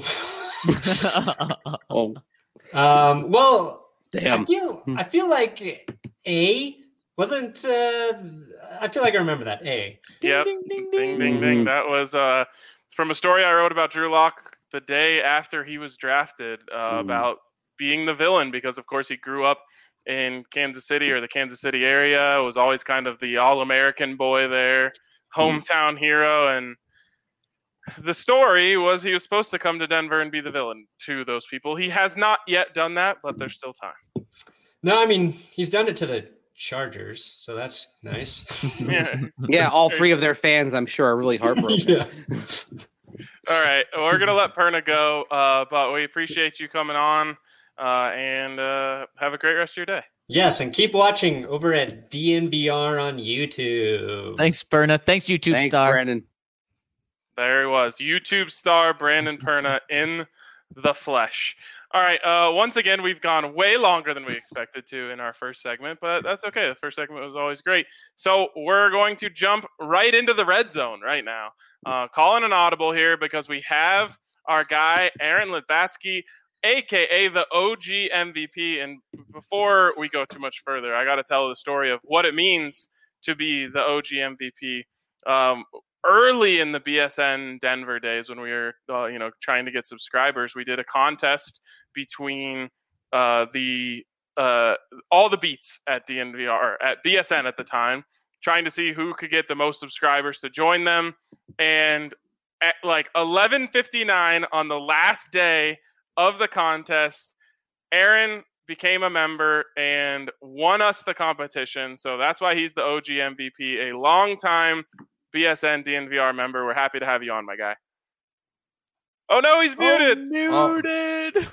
Oh, Um, well, I damn! feel I feel like A wasn't. Uh, I feel like I remember that A. Yep. Ding, ding, Ding, ding. ding, ding. That was uh, from a story I wrote about Drew Lock the day after he was drafted uh, Mm. about being the villain because, of course, he grew up in Kansas City or the Kansas City area. Was always kind of the all-American boy there, hometown hero. And the story was he was supposed to come to Denver and be the villain to those people. He has not yet done that, but there's still time. No, I mean he's done it to the Chargers, so that's nice. Yeah. Yeah, all three of their fans, I'm sure, are really heartbroken. Yeah. All right, we're gonna let Perna go, uh, but we appreciate you coming on, uh, and uh, have a great rest of your day. Yes, and keep watching over at D N V R on YouTube. Thanks, Berna. Thanks, YouTube Thanks, star. Brandon. There he was, YouTube star Brandon Perna in the flesh. All right, uh, once again, we've gone way longer than we expected to in our first segment, but that's okay. The first segment was always great. So we're going to jump right into the red zone right now. Uh, calling an audible here because we have our guy, Aaron Litvatsky, a k a the O G M V P. And before we go too much further, I got to tell the story of what it means to be the O G M V P. Um, early in the B S N Denver days when we were, uh, you know, trying to get subscribers, we did a contest between uh, the uh, all the beats at D N V R, at B S N at the time, trying to see who could get the most subscribers to join them. And at like eleven fifty-nine on the last day of the contest, Aaron became a member and won us the competition. So that's why he's the O G M V P, a long-time B S N D N V R member. We're happy to have you on, my guy. Oh, no, he's muted. Oh, muted.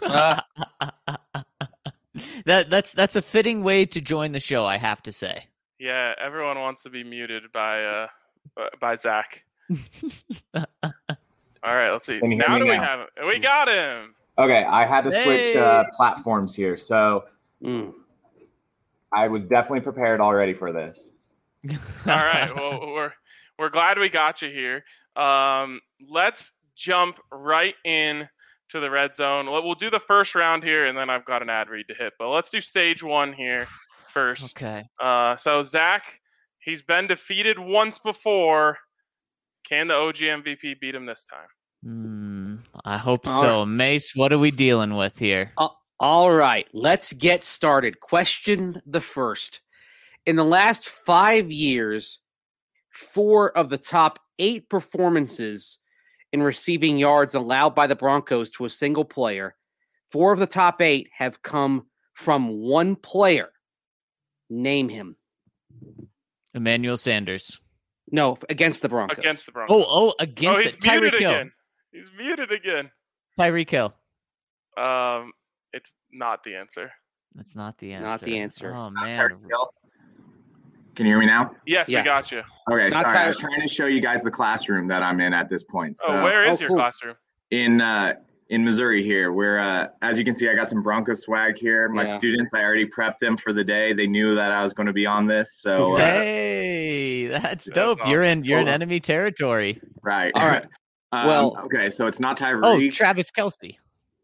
that that's that's a fitting way to join the show, I have to say. Yeah, everyone wants to be muted by uh by Zach. All right, let's see. Can you hear Now me do we now? have him? We got him. Okay, I had to switch uh, Hey. platforms here, so Mm. I was definitely prepared already for this. All right. Well, we're we're glad we got you here. Um, let's jump right in to the red zone. We'll we'll do the first round here, and then I've got an ad read to hit. But let's do stage one here first. Okay. Uh, so Zach, he's been defeated once before. Can the O G M V P beat him this time? Hmm, I hope All so. Mace, what are we dealing with here? Uh, all right, let's get started. Question the first. In the last five years, four of the top eight performances in receiving yards allowed by the Broncos to a single player, four of the top eight have come from one player. Name him. Emmanuel Sanders. No, against the Broncos. Against the Broncos. Oh, oh, oh, against he's it. muted Tyreek Hill. again. He's muted again. Tyreek Hill. Um, it's not the answer. That's not the answer. Not the answer. Oh Not man. Tyreek Hill. Can you hear me now? Yes, Yeah. we got you. Okay, Not sorry. I Tyler. was trying to show you guys the classroom that I'm in at this point. So oh, where is oh, your cool. classroom? in uh, in Missouri here, where uh, as you can see, I got some Broncos swag here. My Yeah. students, I already prepped them for the day. They knew that I was going to be on this. So uh, Hey, that's That's dope. You're in you're in Hold on. enemy territory. right. All right. um, Well- okay, so it's not Oh, Tyreek. Travis Kelsey.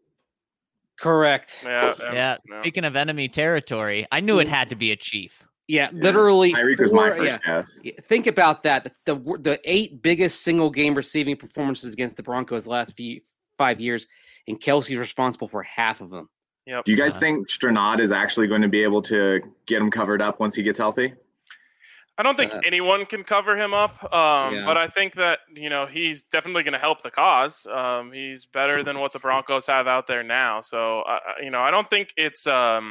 Correct. Yeah. yeah, Yeah. no. Speaking of enemy territory, I knew it had to be a Chief. Yeah, literally. Tyreek was my four- first yeah. guess. Yeah, think about that. The, the the eight biggest single game receiving performances against the Broncos the last few five years, and Kelsey's responsible for half of them. Yep. Do you guys Uh, think Stranad is actually going to be able to get him covered up once he gets healthy? I don't think Uh, anyone can cover him up, um, Yeah. but I think that you know he's definitely going to help the cause. Um, he's better than what the Broncos have out there now, so uh, you know I don't think it's. Um,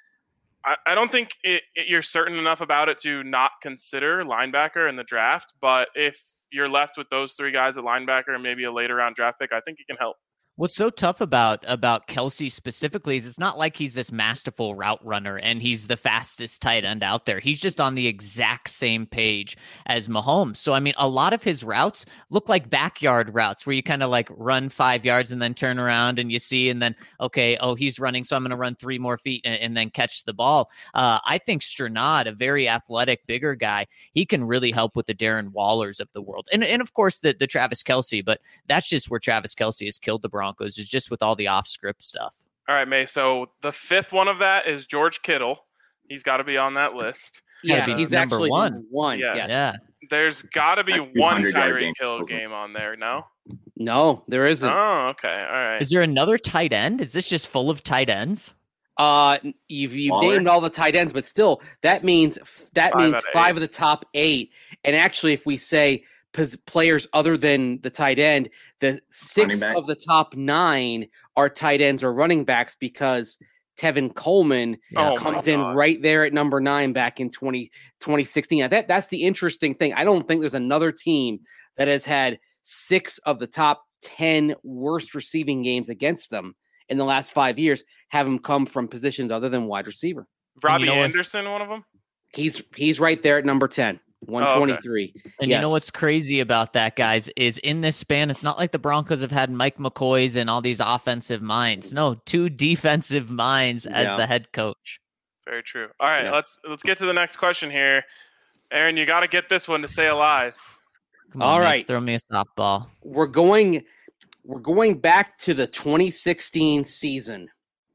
I, I don't think it, it, you're certain enough about it to not consider linebacker in the draft. But if you're left with those three guys at linebacker and maybe a later round draft pick, I think he can help. What's so tough about about Kelsey specifically is it's not like he's this masterful route runner and he's the fastest tight end out there. He's just on the exact same page as Mahomes. So I mean, a lot of his routes look like backyard routes where you kind of like run five yards and then turn around and you see, and then okay, oh he's running, so I'm going to run three more feet and, and then catch the ball. Uh, I think Stranad, a very athletic, bigger guy, he can really help with the Darren Wallers of the world, and and of course the the Travis Kelsey. But that's just where Travis Kelsey has killed the Broncos. Is just with all the off script stuff. All right, May. So the fifth one of that is George Kittle. He's got to be on that list. Gotta Yeah, be he's number actually one. number one. Yeah. Yes. Yeah. There's got to be Like one two hundred yard Tyreek game. Hill game on there. No. No, there isn't. Oh, okay. All right. Is there another tight end? Is this just full of tight ends? Uh, you've you Waller? named all the tight ends, but still, that means that Five means out of five eight. of the top eight. And actually, if we say pos- players other than the tight end, the six Running back? of the top nine are tight ends or running backs because Tevin Coleman Oh, my comes in God. right there at number nine back in twenty, twenty sixteen. Now, that that's the interesting thing. I don't think there's another team that has had six of the top ten worst receiving games against them in the last five years have them come from positions other than wide receiver. Robbie know what's- Anderson, one of them. He's he's right there at number ten, one twenty-three. And Yes. you know what's crazy about that, guys, is in this span, it's not like the Broncos have had Mike McCoys and all these offensive minds. No, two defensive minds as Yeah. the head coach. Very true. All right, Yeah. let's let's get to the next question here. Aaron, you got to get this one to stay alive. Come All on, Mace, right. throw me a softball. We're going we're going back to the twenty sixteen season.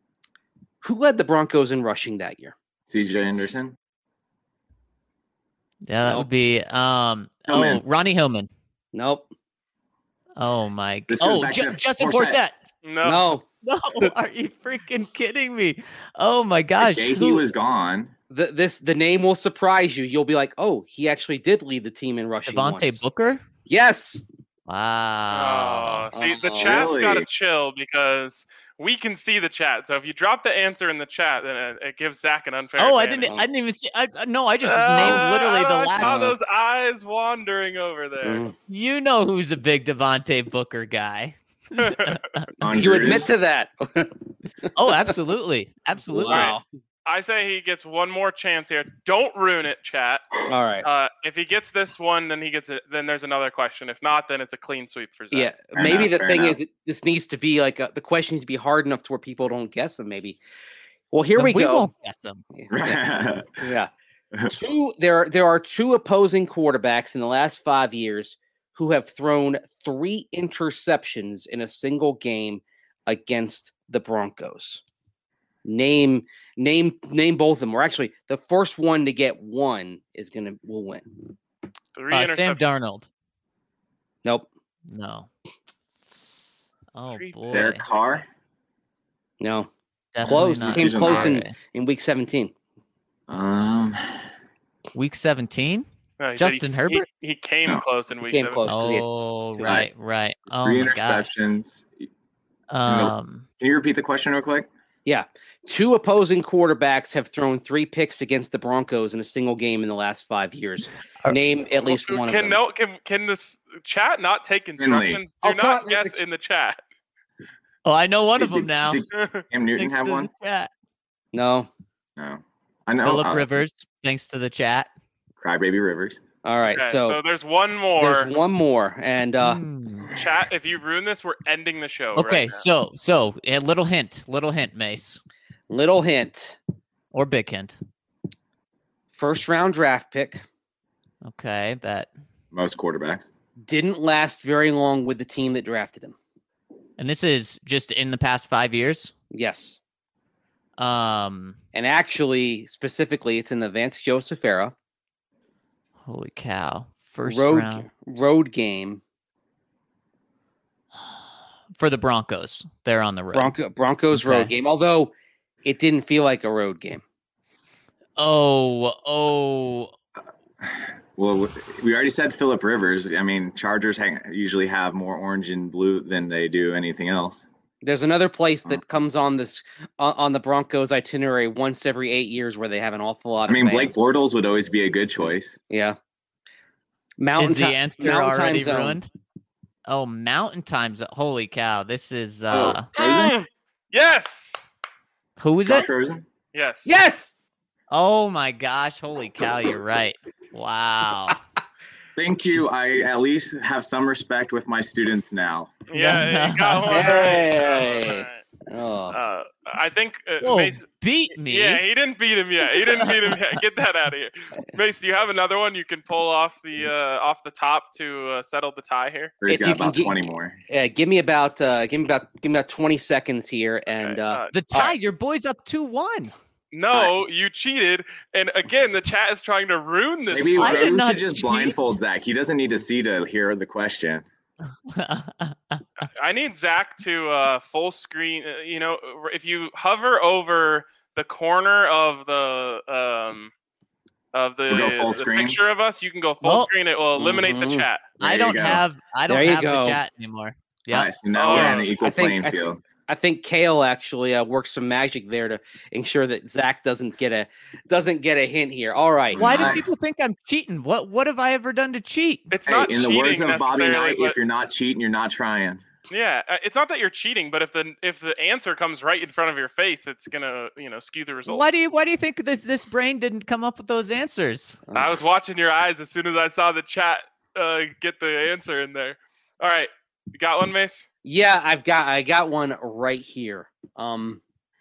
Who led the Broncos in rushing that year? C J Anderson. Yeah, that Nope. would be um oh Hillman. Ronnie Hillman. Nope. Oh my god. This goes Oh, back Ju- to Justin Forsett. Forsett. No. No. No, are you freaking kidding me? Oh my gosh. The day he who- was gone. The, this the name will surprise you. You'll be like, "Oh, he actually did lead the team in rushing." Devontae once." Booker? Yes. Wow. Oh, see, the Oh, chat's got to really? chill because we can see the chat. So if you drop the answer in the chat, then it, it gives Zach an unfair. Oh, I advantage. didn't I didn't even see I I- no, I just Uh, named literally the I saw last those eyes wandering over there. Mm. You know who's a big Devontae Booker guy. On You Gruden. admit to that. Oh, absolutely. Absolutely. Wow. I say he gets one more chance here. Don't ruin it, chat. All right. Uh, if he gets this one, then he gets it. Then there's another question. If not, then it's a clean sweep for Zach. Yeah, Fair maybe enough, the fair thing enough. is, it, this needs to be like a, the question needs to be hard enough to where people don't guess them. Maybe. Well, here Then we, go. won't guess them. Yeah. Yeah. Two. There. There are two opposing quarterbacks in the last five years who have thrown three interceptions in a single game against the Broncos. Name. Name. Name both of them. Or actually, the first one to get one is gonna will win. Three Uh, Sam interceptions. Darnold. Nope. No. Oh Three- boy. Derek Carr. No. Definitely Close. not. Came close in, Okay. in week seventeen. Um, Week seventeen? No, he said Justin he, Herbert? He, he came No. close in week came seven. close. 'cause he had- Oh, two. right, right. Oh three my gosh. interceptions. Um, Can you repeat the question real quick? Yeah. Two opposing quarterbacks have thrown three picks against the Broncos in a single game in the last five years. Are- Name at least Well, one can of them. No, can can this chat not take Finley. instructions? Do Oh, not come on, guess it's- in the chat. oh, I know one of Did- them now. Did Cam Newton Thanks have to one? the chat. No. No. I know. Philip uh, Rivers, thanks to the chat. Crybaby Rivers. All right, Okay, so, so there's one more. there's one more, and uh, Hmm. Chat, if you ruin this, we're ending the show. Okay, right now. so so a little hint, little hint, Mace, little hint: or big hint. first round draft pick, Okay, that. Most quarterbacks. didn't last very long with the team that drafted him. And this is just in the past five years. Yes, Um, and actually, specifically, it's in the Vance Joseph era. holy cow! First road round road game. for the Broncos. They're on the road. Bronco, Broncos road Okay. game. Although it didn't feel like a road game. Oh, oh, Well, we already said Phillip Rivers. I mean, Chargers hang, usually have more orange and blue than they do anything else. There's another place Oh. that comes on this on, on the Broncos itinerary once every eight years where they have an awful lot. I mean, of Blake fans. Bortles would always be a good choice. Yeah. Mountain is the Ti- answer Mountain Time already Zone. ruined? Oh, Mountain Time Zone. Holy cow! This is uh, Oh, Rosen? Mm, yes. who is Josh it? Rosen? Yes. Yes. Oh my gosh! Holy cow! You're right. Wow. Thank you. I at least have some respect with my students now. Yeah, you got one. Hey. Right. Oh. Uh, I think uh, Whoa, Mace. beat me. Yeah, he didn't beat him yet. He didn't beat him yet. Get that out of here, Mace. Do you have another one you can pull off the uh, off the top to uh, settle the tie here? He's If you got can about get- twenty more. Yeah, give me about uh, give me about give me about twenty seconds here, and Okay, uh, uh, The All tie. right. Your boy's up two one. no, you cheated, and again, the chat is trying to ruin this. Maybe I did we not should just cheat. blindfold Zach. He doesn't need to see to hear the question. I need Zach to uh, full screen. uh, You know, if you hover over the corner of the um of the, We'll go full the screen? picture of us, you can go full Oh. screen. It will eliminate Mhm. the chat. There I you don't go. have. I don't There you have the go. chat anymore. Yeah. All right, so now we're Oh, on an equal I think- playing I- field. I think Kale actually uh, worked some magic there to ensure that Zach doesn't get a doesn't get a hint here. All right. Why do Nice. people think I'm cheating? What What have I ever done to cheat? It's Hey, not in the cheating words of Bobby necessarily, Knight, but- if you're not cheating, you're not trying. Yeah, uh, it's not that you're cheating, but if the if the answer comes right in front of your face, it's gonna you know skew the result. Why do you Why do you think this this brain didn't come up with those answers? I was watching your eyes as soon as I saw the chat uh, get the answer in there. All right, you got one, Mace? Yeah, I've got I got one right here. Um,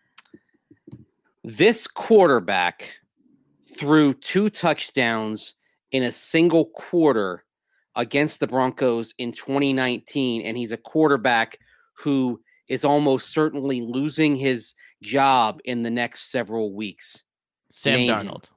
this quarterback threw two touchdowns in a single quarter against the Broncos in twenty nineteen, and he's a quarterback who is almost certainly losing his job in the next several weeks. Sam Name him. Darnold.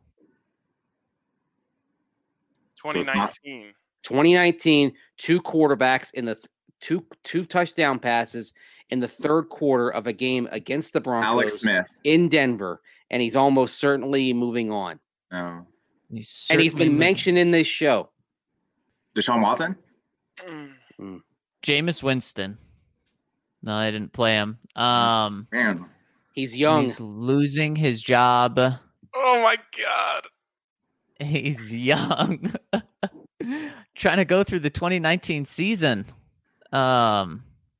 twenty it's not- nineteen. twenty nineteen, two quarterbacks in the th- two two touchdown passes in the third quarter of a game against the Broncos Alex Smith. in Denver, and he's almost certainly moving on. No. He's And he's certainly been moving. mentioned in this show. Deshaun Watson? Mm. Jameis Winston. No, I didn't play him. Um, Man. He's young. he's losing his job. Oh my god. He's young. Trying to go through the twenty nineteen season. Um,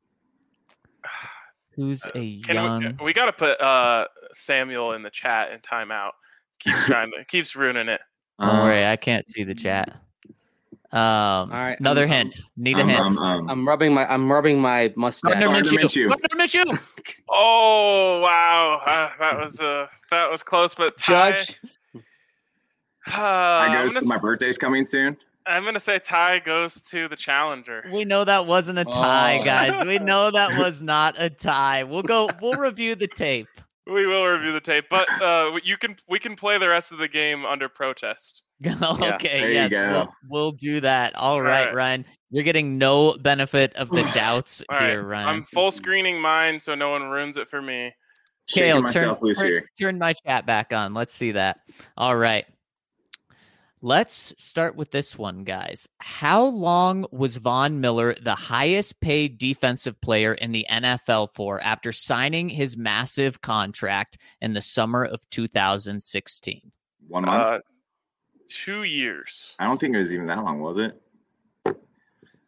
who's a Can young? we, we got to put uh, Samuel in the chat and timeout. Keeps trying to keeps ruining it. Don't Uh, worry, I can't see the chat. Um, right, another um, hint. Need a um, hint. um, um, I'm rubbing my I'm rubbing my mustache. Gardner Gardner Minshew. Minshew. Gardner Minshew. Oh wow, uh, that was uh, that was close, but Ty, Judge. Uh, I I'm, goes gonna, to my s- birthday's coming soon. I'm gonna say Ty goes to the challenger. We know that wasn't a tie, Oh. guys. We know that was not a tie. We'll go. We'll review the tape. We will review the tape, but uh, you can we can play the rest of the game under protest. Okay, there you yes, go. we'll, we'll do that. All right, right. Ryan. You're getting no benefit of the doubts All right, here, Ryan. I'm full screening mine so no one ruins it for me. Shaking Kale, myself turn, loose turn, here. turn my chat back on. Let's see that. All right. Let's start with this one, guys. How long was Von Miller the highest paid defensive player in the N F L for after signing his massive contract in the summer of two thousand sixteen? One month. Uh, two years. I don't think it was even that long, was it?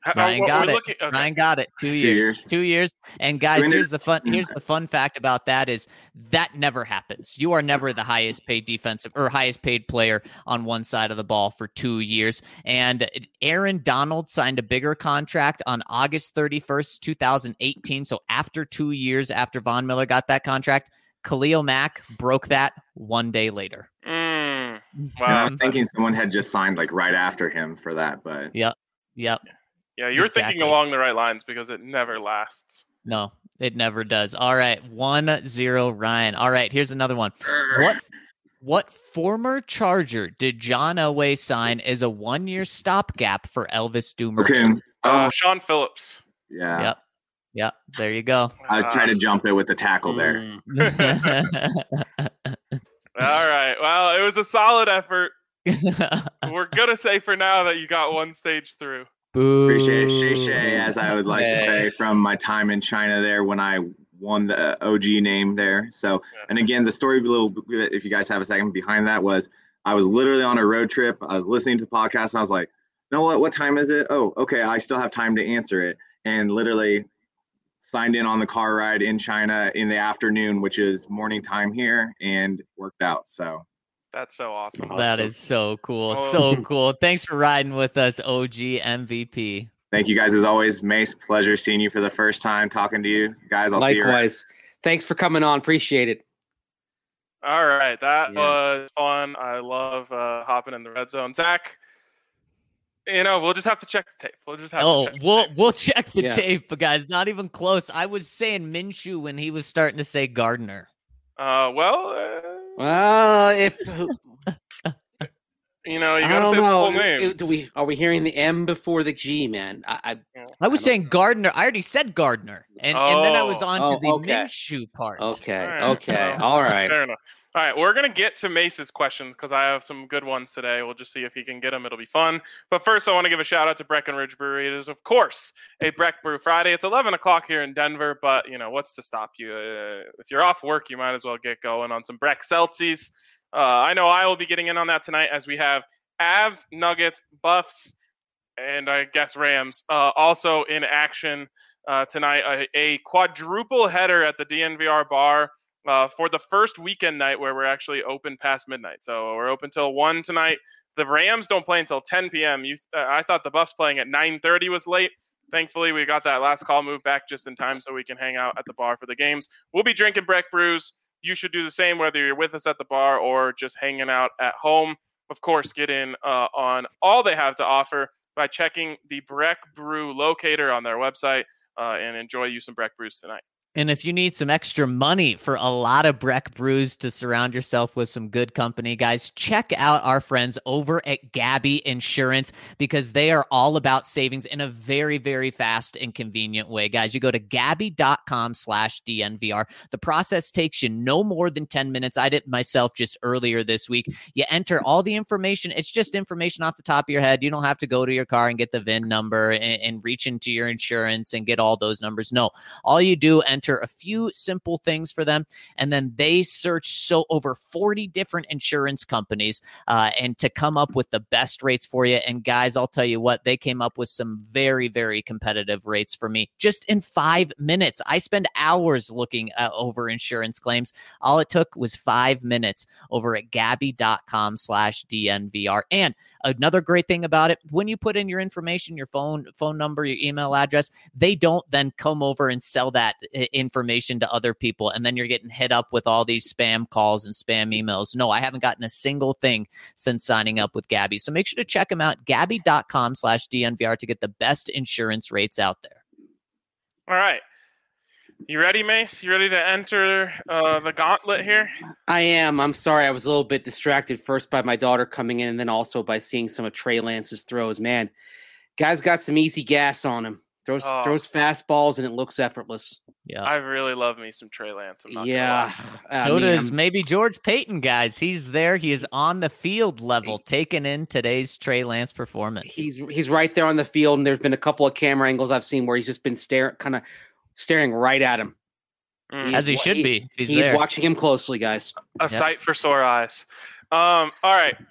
How- Ryan what got we're it. looking- okay. Ryan got it. Two, Two years. years. Two years. And guys, When here's did- the fun. Here's the fun fact about that is that never happens. You are never the highest paid defensive or highest paid player on one side of the ball for two years. And Aaron Donald signed a bigger contract on August thirty-first, twenty eighteen. So after two years after Von Miller got that contract, Khalil Mack broke that one day later. Mm, And I wow. was thinking someone had just signed like right after him for that, but Yep. Yep. Yeah, you're Exactly. thinking along the right lines because it never lasts. No, it never does. All right. one zero Ryan. All right. Here's another one. What what former Charger did John Elway sign as a one-year stopgap for Elvis Dumer? okay. Uh, Oh, Sean Phillips. yeah. Yep. Yep. There you go. I was trying to jump it with the tackle there. Mm. All right. Well, it was a solid effort. We're gonna say for now that you got one stage through. Boo. Appreciate Shay Shay, as I would like to Hey. say, from my time in China there when I won the O G name there. So, and again, the story, a little, if you guys have a second behind that, was I was literally on a road trip. I was listening to the podcast, and I was like, you know what? What time is it? Oh, okay. I still have time to answer it. And literally signed in on the car ride in China in the afternoon, which is morning time here, and worked out. So. That's so awesome. That is so cool. Oh. So cool. Thanks for riding with us, O G M V P. Thank you guys as always. Mace, pleasure seeing you for the first time, talking to you guys. I'll see you around. Likewise. Thanks for coming on. Appreciate it. All right, that Yeah. was fun. I love uh, hopping in the red zone. Zach, you know, we'll just have to check the tape. We'll just have Oh, to check. the we'll tape. we'll check the Yeah. tape, but guys, not even close. I was saying Minshew when he was starting to say Gardner. Uh, well, uh, Well, if you know, you I gotta don't say the know, full name. do we are we hearing the M before the G, man? I, I I was I don't saying Gardner. I already said Gardner, and and then I was Oh. on to Oh, the okay. Minshew part. okay, All right, okay, well, all right. Fair enough. All right, we're gonna get to Mace's questions because I have some good ones today. We'll just see if he can get them. It'll be fun. But first, I want to give a shout out to Breckenridge Brewery. It is, of course, a Breck Brew Friday. It's eleven o'clock here in Denver, but you know what's to stop you? Uh, if you're off work, you might as well get going on some Breck Seltzies. Uh, I know I will be getting in on that tonight as we have Avs, Nuggets, Buffs, and I guess Rams uh, also in action uh, tonight. A, a quadruple header at the D N V R bar. Uh, for the first weekend night where we're actually open past midnight. So we're open till one tonight. The Rams don't play until ten p.m. You, uh, I thought the Buffs playing at nine thirty was late. Thankfully, we got that last call moved back just in time so we can hang out at the bar for the games. We'll be drinking Breck brews. You should do the same whether you're with us at the bar or just hanging out at home. Of course, get in uh, on all they have to offer by checking the Breck Brew locator on their website uh, and enjoy you some Breck brews tonight. And if you need some extra money for a lot of Breck brews to surround yourself with some good company, guys, check out our friends over at Gabby Insurance because they are all about savings in a very, very fast and convenient way. Guys, you go to gabby.com slash DNVR. The process takes you no more than ten minutes. I did it myself just earlier this week. You enter all the information. It's just information off the top of your head. You don't have to go to your car and get the V I N number and, and reach into your insurance and get all those numbers. No, all you do, enter a few simple things for them, and then they search so over forty different insurance companies uh, and to come up with the best rates for you. And guys, I'll tell you what, they came up with some very, very competitive rates for me just in five minutes. I spend hours looking uh, over insurance claims. All it took was five minutes over at gabby.com slash DNVR. And another great thing about it, when you put in your information, your phone, phone number, your email address, they don't then come over and sell that I- information to other people. And then you're getting hit up with all these spam calls and spam emails. No, I haven't gotten a single thing since signing up with Gabby. So make sure to check them out, gabby.com slash DNVR to get the best insurance rates out there. All right. You ready, Mace? You ready to enter uh, the gauntlet here? I am. I'm sorry. I was a little bit distracted first by my daughter coming in and then also by seeing some of Trey Lance's throws. Man, guy's got some easy gas on him. Throws Oh. throws fastballs and it looks effortless. Yeah. I really love me some Trey Lance. I'm not gonna Yeah. lie. I So mean, does I'm- maybe George Payton, guys. He's there. He is on the field level, taking in today's Trey Lance performance. he's he's right there on the field, and there's been a couple of camera angles I've seen where he's just been staring, kind of staring right at him. Mm. As he He's- should be. If he's He's there. watching him closely, guys. A sight for sore eyes. Um, all right.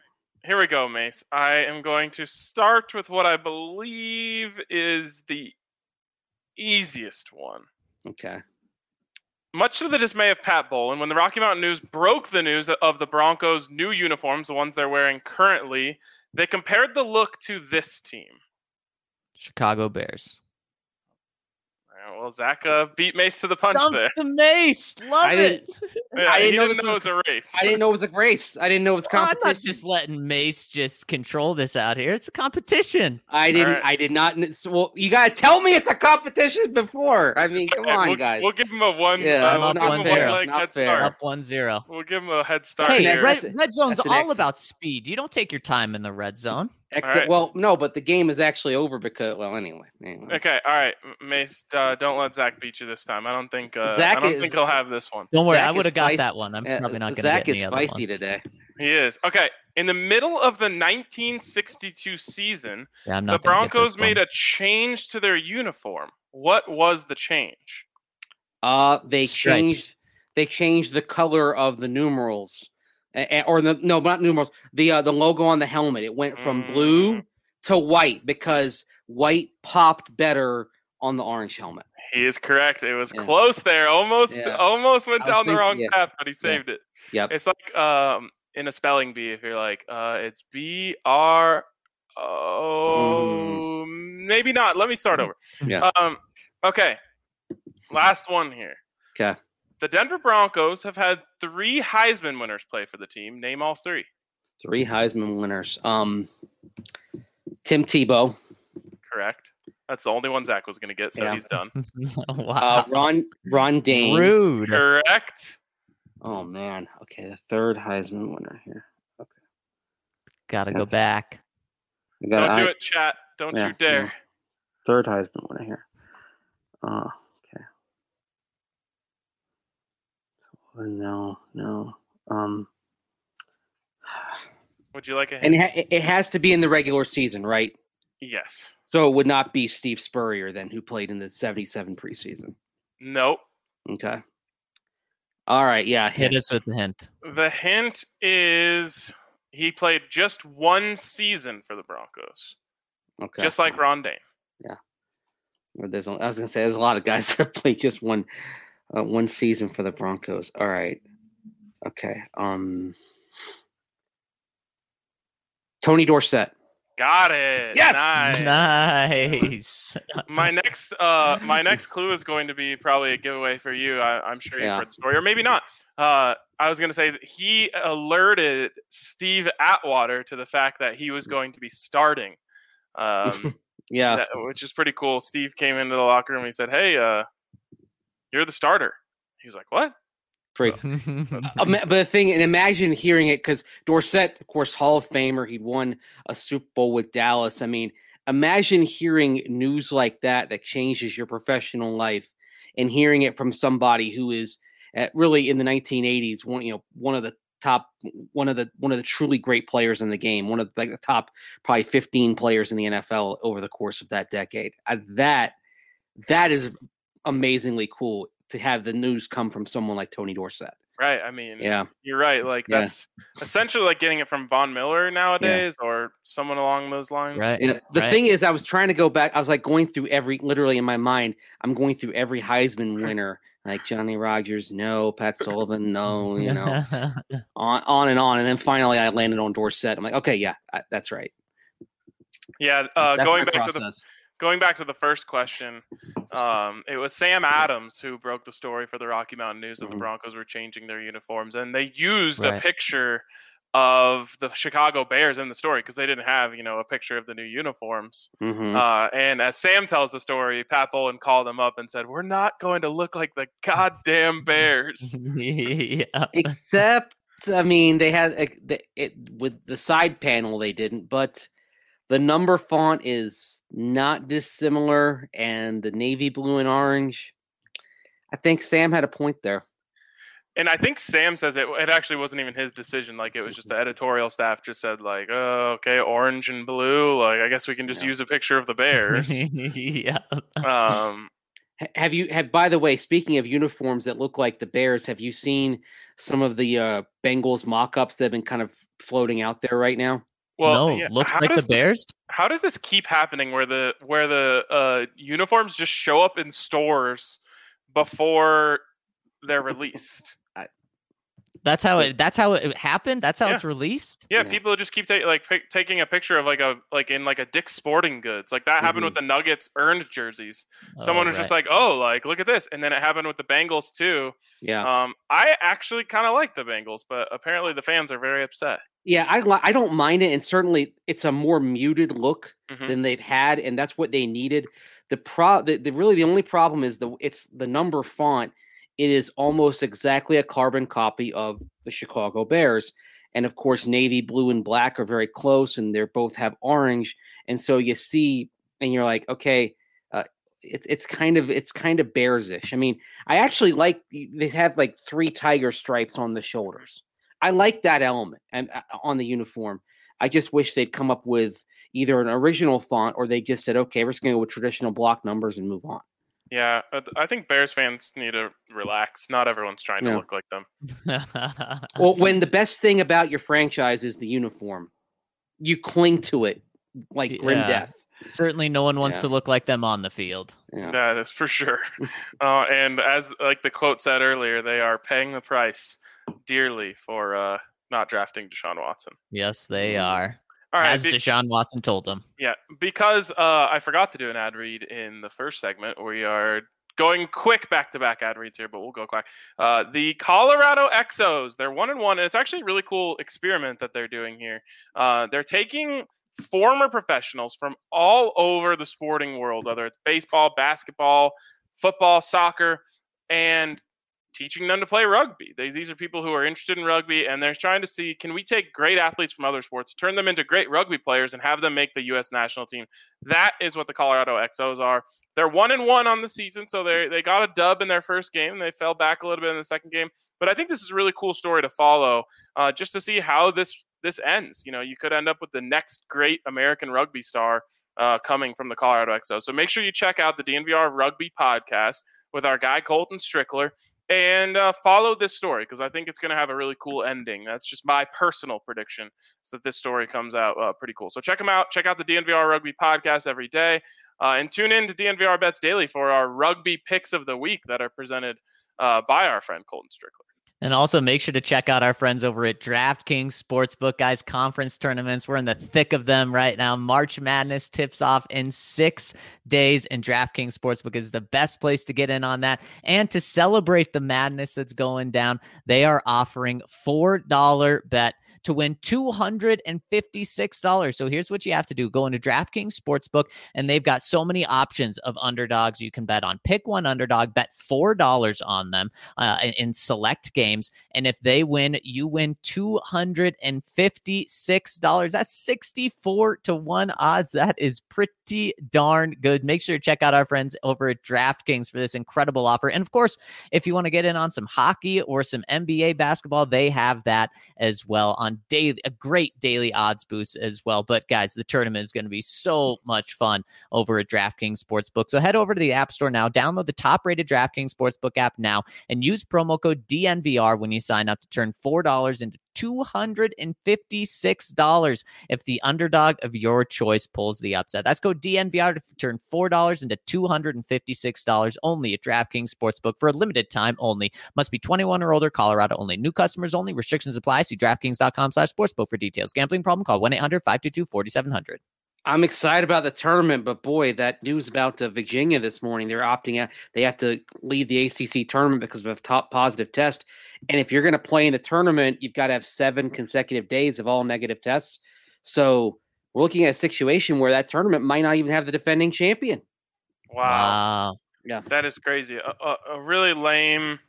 here we go, Mace. I am going to start with what I believe is the easiest one. Okay. Much to the dismay of Pat Bowlen, when the Rocky Mountain News broke the news of the Broncos' new uniforms, the ones they're wearing currently, they compared the look to this team. Chicago Bears. Well, Zach uh, beat Mace to the punch Dump there. the Mace. Love I it. Yeah, I didn't he know didn't this know it was- was a race. I didn't know it was a race. I didn't know it was Well, I'm competition. not just letting Mace just control this out here. It's a competition. I didn't. right. I did not. so, Well, you gotta tell me it's a competition before. I mean, come Okay, on, we'll, guys. We'll give him a one. Yeah, uh, I'm we'll up give him one a zero. one leg Not head fair. start. Up one zero. We'll give him a head start. Hey, here. red, That's- red zone's that's an all ex- about speed. You don't take your time in the red zone. Except, right. well, no, but the game is actually over because, well, anyway. anyway. Okay, all right, M- Mace. Uh, don't let Zach beat you this time. I don't think. Uh, Zach I don't is- think he'll have this one. Don't worry, Zach I is would have got feist- that one. I'm Uh, probably not going to Zach get is any other feisty ones. today. He is. Okay, in the middle of the nineteen sixty-two season, Yeah, I'm the not gonna get Broncos this made one. a change to their uniform. What was the change? Uh, they Stripes. changed. They changed the color of the numerals, A- a- or the no, not numerals. The uh, the logo on the helmet. It went from Mm. blue to white because white popped better on the orange helmet. He is correct. It was Yeah. close there. Almost, Yeah. almost went I was down the thinking- wrong yeah. path, but he saved it. Yep. It's like um in a spelling bee. If you're like, uh, it's B R O. Maybe not. Let me start over. Yeah. Um. Okay. Last one here. Okay. The Denver Broncos have had three Heisman winners play for the team. Name all three. Three Heisman winners. Um, Tim Tebow, Correct. That's the only one Zach was going to get, so Yeah. he's done. Wow. uh, Ron Ron Dane. Rude. Correct. Oh man. Okay, the third Heisman winner here. Gotta go That's- back. I got Don't do it, chat. Don't Yeah, you dare. yeah. Third Heisman winner here. Uh, okay. Oh, no, no. Um, Would you like a hint? and it, ha- it has to be in the regular season, right? Yes. So it would not be Steve Spurrier then, who played in the seventy-seven preseason. Nope. Okay. All right. Yeah. Hit Hit us with the hint. The hint is he played just one season for the Broncos, Okay. just like Ron Dane. Or there's, a- I was gonna say there's a lot of guys that played just one, uh, one season for the Broncos. All right. Okay. Um. Tony Dorsett. Got it. Yes! Nice. Nice. My next, uh, my next clue is going to be probably a giveaway for you. I, I'm sure you've Yeah. heard the story, or maybe not. Uh, I was going to say that he alerted Steve Atwater to the fact that he was going to be starting, um, Yeah. that- which is pretty cool. Steve came into the locker room and he said, "Hey, uh, you're the starter." He was like, "What?" Pretty. Ima- But the thing, and imagine hearing it because Dorsett, of course, Hall of Famer. He'd won a Super Bowl with Dallas. I mean, imagine hearing news like that that changes your professional life, and hearing it from somebody who is uh, really in the nineteen eighties, one you know, one of the top, one of the one of the truly great players in the game, one of like the top probably fifteen players in the N F L over the course of that decade. Uh, that that is amazingly cool to have the news come from someone like Tony Dorsett. Right. I mean, Yeah. you're right. Like Yeah. that's essentially like getting it from Von Miller nowadays, or someone along those lines. Right. You know, the Right. thing is, I was trying to go back. I was like going through every, literally in my mind, I'm going through every Heisman winner, like Johnny Rogers, no, Pat Sullivan, no, you know, on, on and on. And then finally I landed on Dorsett. I'm like, okay, yeah, I, that's right. Yeah. Uh, That's going my back to the process. going back to the first question, um, it was Sam Adams who broke the story for the Rocky Mountain News that the Mhm. Broncos were changing their uniforms, and they used Right. a picture of the Chicago Bears in the story because they didn't have, you know, a picture of the new uniforms. Mhm. Uh, and as Sam tells the story, Pat Bowlen called them up and said, "We're not going to look like the goddamn Bears." yeah. Except, I mean, they had like, the, it with the side panel, they didn't, but the number font is not dissimilar, and the navy blue and orange. I think Sam had a point there. And I think Sam says it. It actually wasn't even his decision. Like it was just the editorial staff just said, like, "Oh, okay, orange and blue. Like, I guess we can just Yeah. use a picture of the Bears." yeah. um, Ha- Have you have by the way, speaking of uniforms that look like the Bears, have you seen some of the uh, Bengals mock-ups that have been kind of floating out there right now? Well, no, yeah, looks how like the does this- Bears. How does this keep happening where the where the uh, uniforms just show up in stores before they're released? That's how it. That's how it happened. That's how Yeah. it's released. Yeah, Yeah. people just keep ta- like pic- taking a picture of like a like in like a Dick's Sporting Goods. Like that happened Mhm. with the Nuggets earned jerseys. Someone Oh, was just right. like, "Oh, like look at this," and then it happened with the Bengals too. Yeah. Um, I actually kind of like the Bengals, but apparently the fans are very upset. Yeah, I li- I don't mind it, and certainly it's a more muted look Mhm. than they've had, and that's what they needed. The pro, the, the really the only problem is the it's the number font. It is almost exactly a carbon copy of the Chicago Bears, and of course, navy blue and black are very close, and they both have orange, and so you see, and you're like, okay, uh, it's it's kind of it's kind of Bears-ish. I mean, I actually like they have like three tiger stripes on the shoulders. I like that element and uh, on the uniform. I just wish they'd come up with either an original font or they just said, okay, we're just going to go with traditional block numbers and move on. Yeah, I- I think Bears fans need to relax. Not everyone's trying to Yeah. look like them. Well, when the best thing about your franchise is the uniform, you cling to it like grim Yeah. death. Certainly, no one wants Yeah. to look like them on the field. Yeah. That is for sure. uh, and as like the quote said earlier, they are paying the price dearly for uh, not drafting Deshaun Watson. Yes, they Mm. are. All right, As be- Deshaun Watson told them. yeah, because uh, I forgot to do an ad read in the first segment. We are going quick back-to-back ad reads here, but we'll go quick. Uh, the Colorado Exos, they're one and one, and it's actually a really cool experiment that they're doing here. Uh, they're taking former professionals from all over the sporting world, whether it's baseball, basketball, football, soccer, and teaching them to play rugby. They, these are people who are interested in rugby, and they're trying to see, can we take great athletes from other sports, turn them into great rugby players, and have them make the U S national team? That is what the Colorado Exos are. They're one and one on the season, so they they got a dub in their first game. They fell back a little bit in the second game, but I think this is a really cool story to follow, uh, just to see how this this ends. You know, you could end up with the next great American rugby star uh, coming from the Colorado Exos. So make sure you check out the D N V R Rugby podcast with our guy Colton Strickler. And uh, follow this story because I think it's going to have a really cool ending. That's just my personal prediction, is that this story comes out uh, pretty cool. So check them out. Check out the D N V R Rugby podcast every day. Uh, and tune in to D N V R Bets Daily for our rugby picks of the week that are presented uh, by our friend Colton Strickler. And also make sure to check out our friends over at DraftKings Sportsbook, guys. Conference tournaments, we're in the thick of them right now. March Madness tips off in six days, and DraftKings Sportsbook is the best place to get in on that. And to celebrate the madness that's going down, they are offering four dollar bet to win two hundred fifty-six dollars. So here's what you have to do. Go into DraftKings Sportsbook, and they've got so many options of underdogs you can bet on. Pick one underdog, bet four dollars on them uh, in, in select games. And if they win, you win two hundred fifty-six dollars. That's sixty-four to one odds. That is pretty darn good. Make sure to check out our friends over at DraftKings for this incredible offer. And of course, if you want to get in on some hockey or some N B A basketball, they have that as well on daily, a great daily odds boost as well. But guys, the tournament is going to be so much fun over at DraftKings Sportsbook. So head over to the App Store now, download the top-rated DraftKings Sportsbook app now, and use promo code D N V R when you sign up to turn four dollars into two hundred fifty-six dollars if the underdog of your choice pulls the upset. That's code D N V R to turn four dollars into two hundred fifty-six dollars only at DraftKings Sportsbook for a limited time only. Must be twenty-one or older, Colorado only. New customers only. Restrictions apply. See DraftKings.com slash sportsbook for details. Gambling problem? Call one eight hundred five two two four seven zero zero. I'm excited about the tournament, but boy, that news about uh, Virginia this morning, they're opting out. They have to leave the A C C tournament because of a top positive test. And if you're going to play in the tournament, you've got to have seven consecutive days of all negative tests. So we're looking at a situation where that tournament might not even have the defending champion. Wow. Wow. Yeah. That is crazy. A, a, a really lame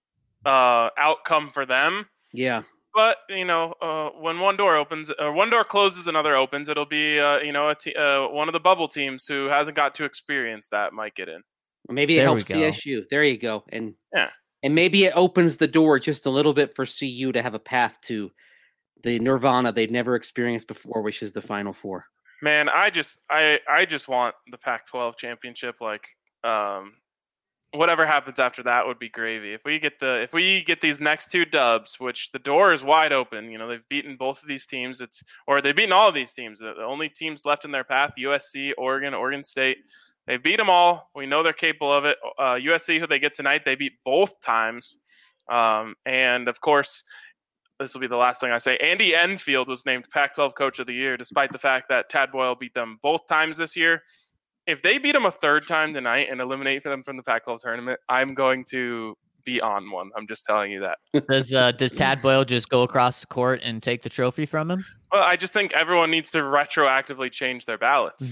uh, outcome for them. Yeah. But, you know, uh, when one door opens, or one door closes, another opens, it'll be, uh, you know, a te- uh, one of the bubble teams who hasn't got to experience that might get in. Maybe it There we helps go. C S U. There you go. And Yeah. and maybe it opens the door just a little bit for C U to have a path to the nirvana they've never experienced before, which is the Final Four. Man, I just, I, I just want the Pac twelve championship, like, um, whatever happens after that would be gravy. If we get the if we get these next two dubs, which the door is wide open, you know, they've beaten both of these teams. It's or they've beaten all of these teams. The only teams left in their path: U S C, Oregon, Oregon State. They beat them all. We know they're capable of it. Uh, U S C, who they get tonight, they beat both times. Um, and of course, this will be the last thing I say. Andy Enfield was named Pac twelve Coach of the Year, despite the fact that Tad Boyle beat them both times this year. If they beat them a third time tonight and eliminate them from the Pac twelve tournament, I'm going to be on one. I'm just telling you that. Does uh, does Tad Boyle just go across the court and take the trophy from him? Well, I just think everyone needs to retroactively change their ballots.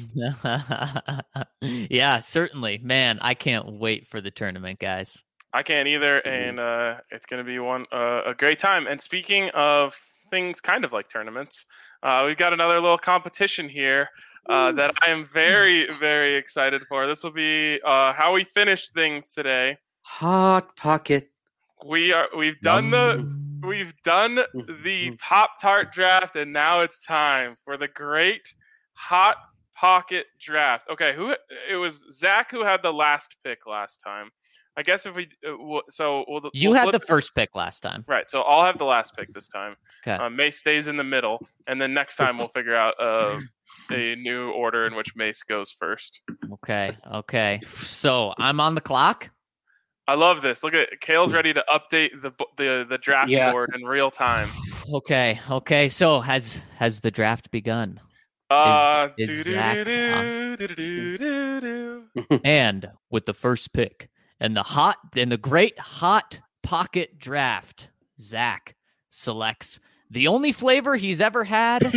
Yeah, certainly. Man, I can't wait for the tournament, guys. I can't either, and uh, it's going to be one uh, a great time. And speaking of things kind of like tournaments, uh, we've got another little competition here uh, that I am very, very excited for. This will be uh, how we finish things today. Hot Pocket. We are we've done the we've done the Pop-Tart draft, and now it's time for the great Hot Pocket draft. Okay, who it was Zach who had the last pick last time. I guess if we uh, so we'll, you we'll had the it. first pick last time, right? So I'll have the last pick this time. Okay. Uh, Mace stays in the middle, and then next time we'll figure out uh, a new order in which Mace goes first. Okay. Okay. So I'm on the clock. I love this. Look at Kale's ready to update the the the draft Yeah. board in real time. Okay. Okay. So has has the draft begun? Uh, is do, Zach do, do, on? do, do, do, do. And with the first pick and the hot and the great Hot Pocket draft, Zach selects the only flavor he's ever had: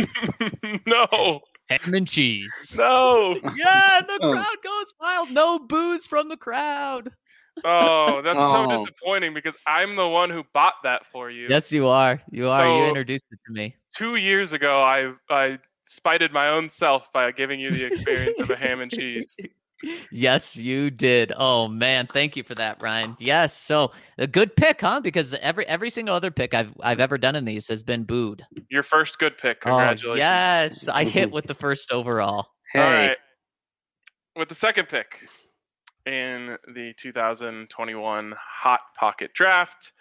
No, ham and cheese. no. Yeah, the Oh. crowd goes wild. No booze from the crowd. Oh, that's so Oh. disappointing because I'm the one who bought that for you. Yes, you are. You are. you So- introduced it to me. Two years ago, I I spited my own self by giving you the experience of a ham and cheese. Yes, you did. Oh man, thank you for that, Ryan. Yes, so a good pick, huh? Because every every single other pick I've I've ever done in these has been booed. Your first good pick. Oh, Congratulations. yes, I hit with the first overall. Hey. All right. With the second pick in the two thousand twenty-one Hot Pocket Draft,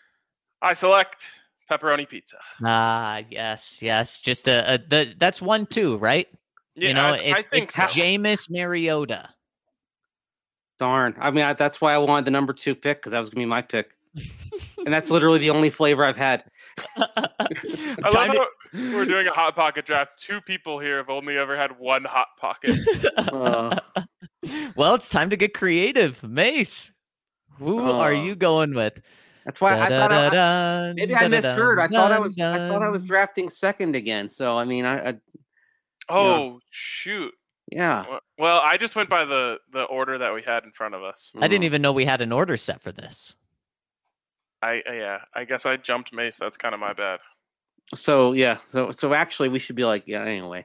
I select pepperoni pizza. Ah, yes, yes. Just a, a the that's one two, right? Yeah, you know, I, it's I think it's so. Jameis Mariota. Darn. I mean, I, that's why I wanted the number two pick because that was going to be my pick. And that's literally the only flavor I've had. I love Time to- how we're doing a Hot Pocket Draft. Two people here have only ever had one Hot Pocket. Uh, Well, it's time to get creative. Mace, who are Uh, you going with? that's why I thought I, I, Da-da-da-dun, maybe I misheard. I thought I was I da-da-dun, thought I was drafting second again. So I mean, I, I Oh, shoot. yeah. Well- Well, I just went by the, the order that we had in front of us. I didn't even know we had an order set for this. I uh, yeah, I guess I jumped Mace. That's kind of my bad. So yeah, so so actually we should be like, yeah, anyway.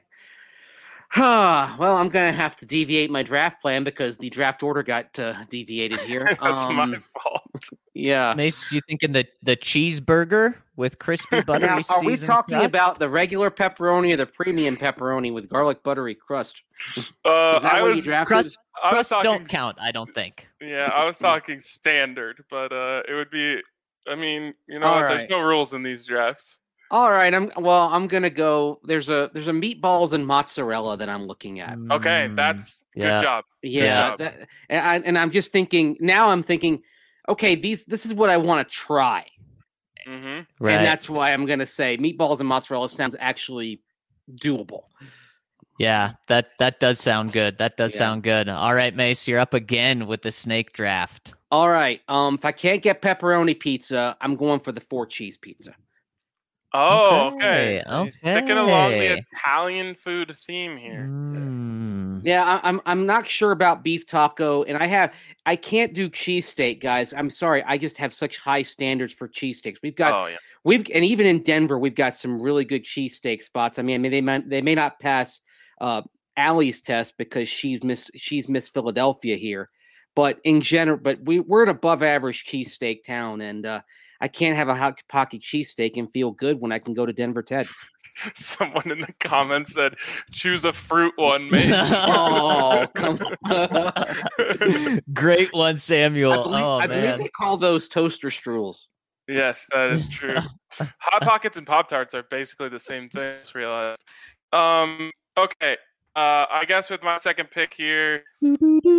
Well, I'm gonna have to deviate my draft plan because the draft order got uh, deviated here. That's my Um, fault. yeah. Mace, you thinking the the cheeseburger with crispy buttery Now, are we seasoned talking crust? about the regular pepperoni or the premium pepperoni with garlic buttery crust? Uh, Is that I what you was drafted? crust? I was Crusts talking don't count, I don't think. Yeah, I was talking standard, but uh, it would be. I mean, you know, All there's right. no rules in these drafts. All right, I'm well. I'm gonna go. There's a there's a meatballs and mozzarella that I'm looking at. Okay, Mm, that's yeah. good job. Yeah, job. that, and, I, and I'm just thinking now. I'm thinking, okay, these this is what I want to try, hmm right. and that's why I'm gonna say meatballs and mozzarella sounds actually doable. Yeah, that that does sound good. That does Yeah. sound good. All right, Mace, you're up again with the snake draft. All right, um, if I can't get pepperoni pizza, I'm going for the four cheese pizza. Oh, Okay, okay. So he's sticking along the okay. Italian food theme here. Mm. Yeah, I, I'm I'm not sure about beef taco, and I have I can't do cheesesteak, guys. I'm sorry, I just have such high standards for cheesesteaks. We've got Oh yeah. we've and even in Denver, we've got some really good cheesesteak spots. I mean, I mean they might they may not pass uh Allie's test because she's Miss she's Miss Philadelphia here, but in general, but we we're an above average cheesesteak town, and uh, I can't have a hot pocket cheesesteak and feel good when I can go to Denver Ted's. Someone in the comments said, "Choose a fruit one, Mace." Oh, come on. Great one, Samuel. I believe, oh I man. believe they call those toaster strudels. Yes, that is true. Hot Pockets and Pop Tarts are basically the same thing. I just realized. Um. Okay. Uh. I guess with my second pick here, you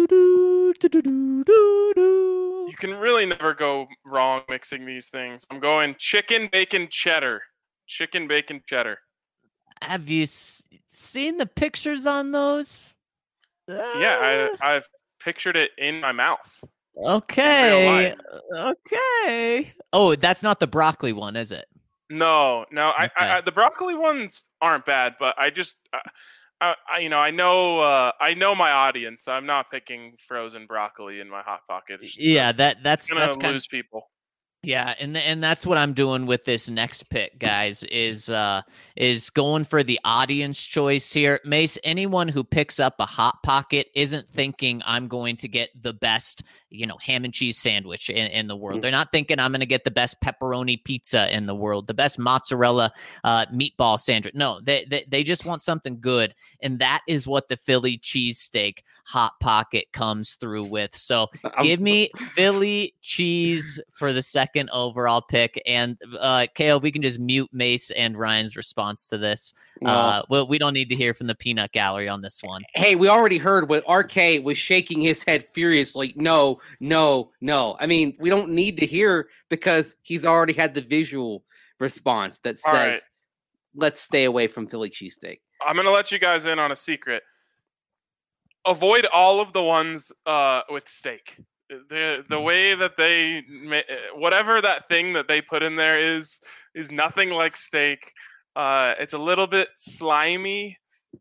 can really never go wrong mixing these things. I'm going chicken bacon cheddar. Chicken bacon cheddar. Have you s- seen the pictures on those? Yeah, I I've pictured it in my mouth. Okay. Okay. Oh, that's not the broccoli one, is it? No, no. I, Okay. I, I the broccoli ones aren't bad, but I just, I, I, I you know, I know, uh, I know my audience. I'm not picking frozen broccoli in my hot pocket. It's- Yeah, that's- that that's it's gonna that's kind lose people. Yeah, and th- and that's what I'm doing with this next pick, guys. Is uh is going for the audience choice here. Mace, anyone who picks up a hot pocket isn't thinking I'm going to get the best, you know, ham and cheese sandwich in, in the world. They're not thinking I'm going to get the best pepperoni pizza in the world, the best mozzarella uh, meatball sandwich. No, they, they they just want something good, and that is what the Philly cheesesteak hot pocket comes through with. So I'm- give me Philly cheese for the second overall pick. And uh, K O, we can just mute Mace and Ryan's response to this. Well, Uh, well, we don't need to hear from the peanut gallery on this one. hey, we already heard what R K was shaking his head furiously. No, no, no. I mean, we don't need to hear because he's already had the visual response that All says, right. let's stay away from Philly cheesesteak. I'm gonna let you guys in on a secret. Avoid all of the ones uh, with steak. The the way that they ma- whatever that thing that they put in there is is nothing like steak. Uh, it's a little bit slimy,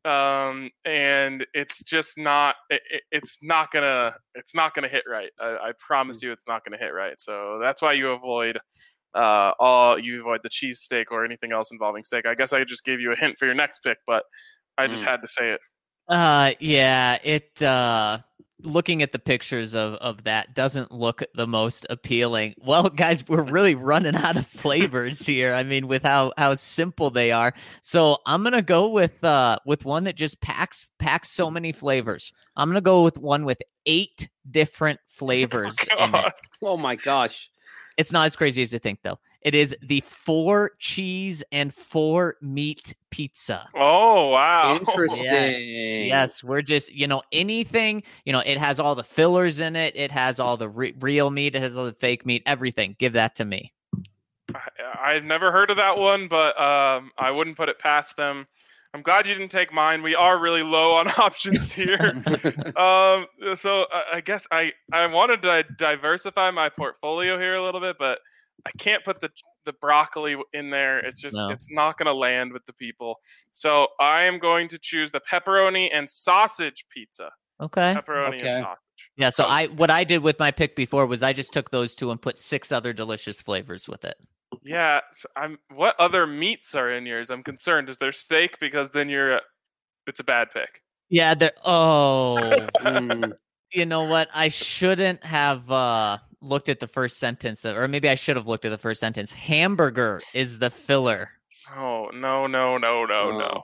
um, and it's just not. It, it- it's not gonna. It's not gonna hit right. I, I promise you, it's not gonna hit right. So that's why you avoid uh, all. You avoid the cheese steak or anything else involving steak. I guess I just gave you a hint for your next pick, but I just Mm. had to say it. Uh, yeah, it, uh, looking at the pictures of, of that doesn't look the most appealing. Well, guys, we're really running out of flavors here. I mean, with how, how simple they are. So I'm going to go with, uh, with one that just packs, packs so many flavors. I'm going to go with one with eight different flavors in it. God. Oh my gosh. It's not as crazy as you think, though. It is the four cheese and four meat pizza. Oh wow! Interesting. Yes, yes, we're just, you know, anything, you know, it has all the fillers in it. It has all the re- real meat. It has all the fake meat, everything. Give that to me. I, I've never heard of that one, but um, I wouldn't put it past them. I'm glad you didn't take mine. We are really low on options here. um, so I, I guess I, I wanted to diversify my portfolio here a little bit, but I can't put the the broccoli in there. It's just No. it's not going to land with the people. So I am going to choose the pepperoni and sausage pizza. Okay. Pepperoni Okay. and sausage. Yeah, so Oh. I what I did with my pick before was I just took those two and put six other delicious flavors with it. Yeah, so I'm. What other meats are in yours? I'm concerned. Is there steak? Because then you're. A, it's a bad pick. Yeah, they're oh, Mm. you know what? I shouldn't have uh looked at the first sentence of, or maybe I should have looked at the first sentence. Hamburger is the filler. Oh no no no no no.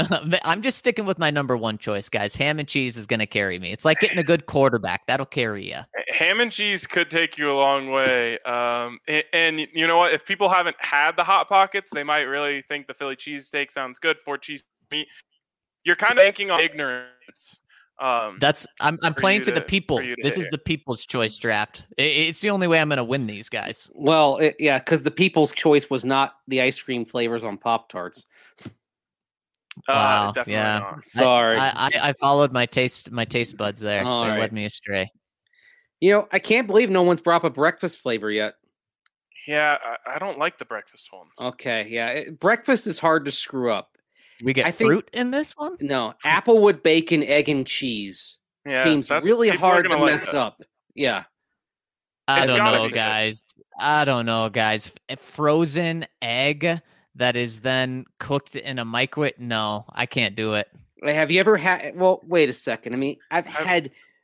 I'm just sticking with my number one choice, guys. Ham and cheese is going to carry me. It's like getting a good quarterback. That'll carry you. Ham and cheese could take you a long way. Um, and, and you know what? If people haven't had the hot pockets, they might really think the Philly cheesesteak sounds good. Four cheese meat. You're kind of banking on ignorance. Um, That's I'm I'm for playing you to the to- people. for you to This hit is it. the people's choice draft. I- It's the only way I'm going to win these guys. Well, it, yeah, because the people's choice was not the ice cream flavors on Pop Tarts. uh, Wow, definitely yeah. not. Sorry. I, I I followed my taste my taste buds there. All they right. led me astray. You know, I can't believe no one's brought up a breakfast flavor yet. Yeah, I, I don't like the breakfast ones. Okay, yeah. it- breakfast is hard to screw up. We get I think- fruit in this one. No, applewood bacon, egg, and cheese Yeah, seems that's- really people are hard to gonna like mess that. up. Yeah. I It's don't gotta know, be good. guys. I don't know, guys. F- Frozen egg that is then cooked in a microwave. No, I can't do it. Have you ever had? Well, wait a second. I mean, I've I've- had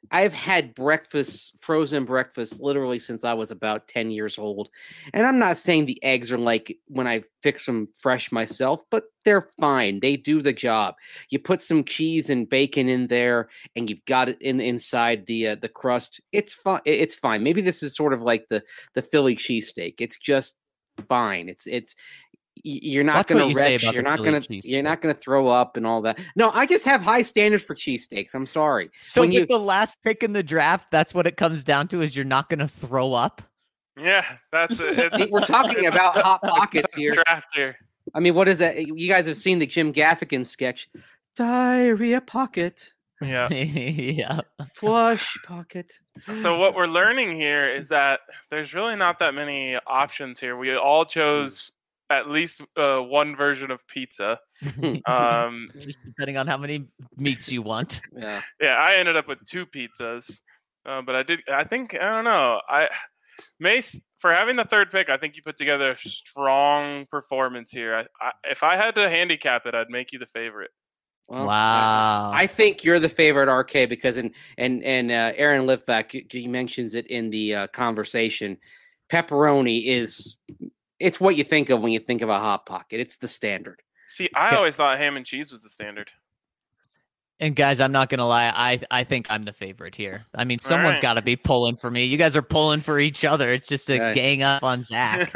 I've had breakfast, frozen breakfast, literally since I was about ten years old. And I'm not saying the eggs are like when I fix them fresh myself, but they're fine. They do the job. You put some cheese and bacon in there, and you've got it in inside the uh, the crust. It's fine. It's fine. Maybe this is sort of like the the Philly cheesesteak. It's just fine. It's it's. You're not going to retch. You're not going to. You're not going to throw up and all that. No, I just have high standards for cheesesteaks. I'm sorry. So when with you, the last pick in the draft, that's what it comes down to: is you're not going to throw up. Yeah, that's it. We're talking about hot pockets here. Draft here. I mean, what is that? You guys have seen the Jim Gaffigan sketch, diarrhea pocket. Yeah. Yeah. Flush pocket. So what we're learning here is that there's really not that many options here. We all chose at least uh, one version of pizza. Um, Just depending on how many meats you want. Yeah. Yeah, I ended up with two pizzas. Uh, but I did, I think, I don't know. I Mace, for having the third pick, I think you put together a strong performance here. I, I, if I had to handicap it, I'd make you the favorite. Well, wow. I, I think you're the favorite, R K, because in and and uh, Aaron Litvak, he mentions it in the uh, conversation. Pepperoni is it's what you think of when you think of a Hot Pocket. It's the standard. See, I yeah. always thought ham and cheese was the standard. And guys, I'm not gonna lie, I I think I'm the favorite here. I mean, someone's right. got to be pulling for me. You guys are pulling for each other. It's just a Right. gang up on Zach.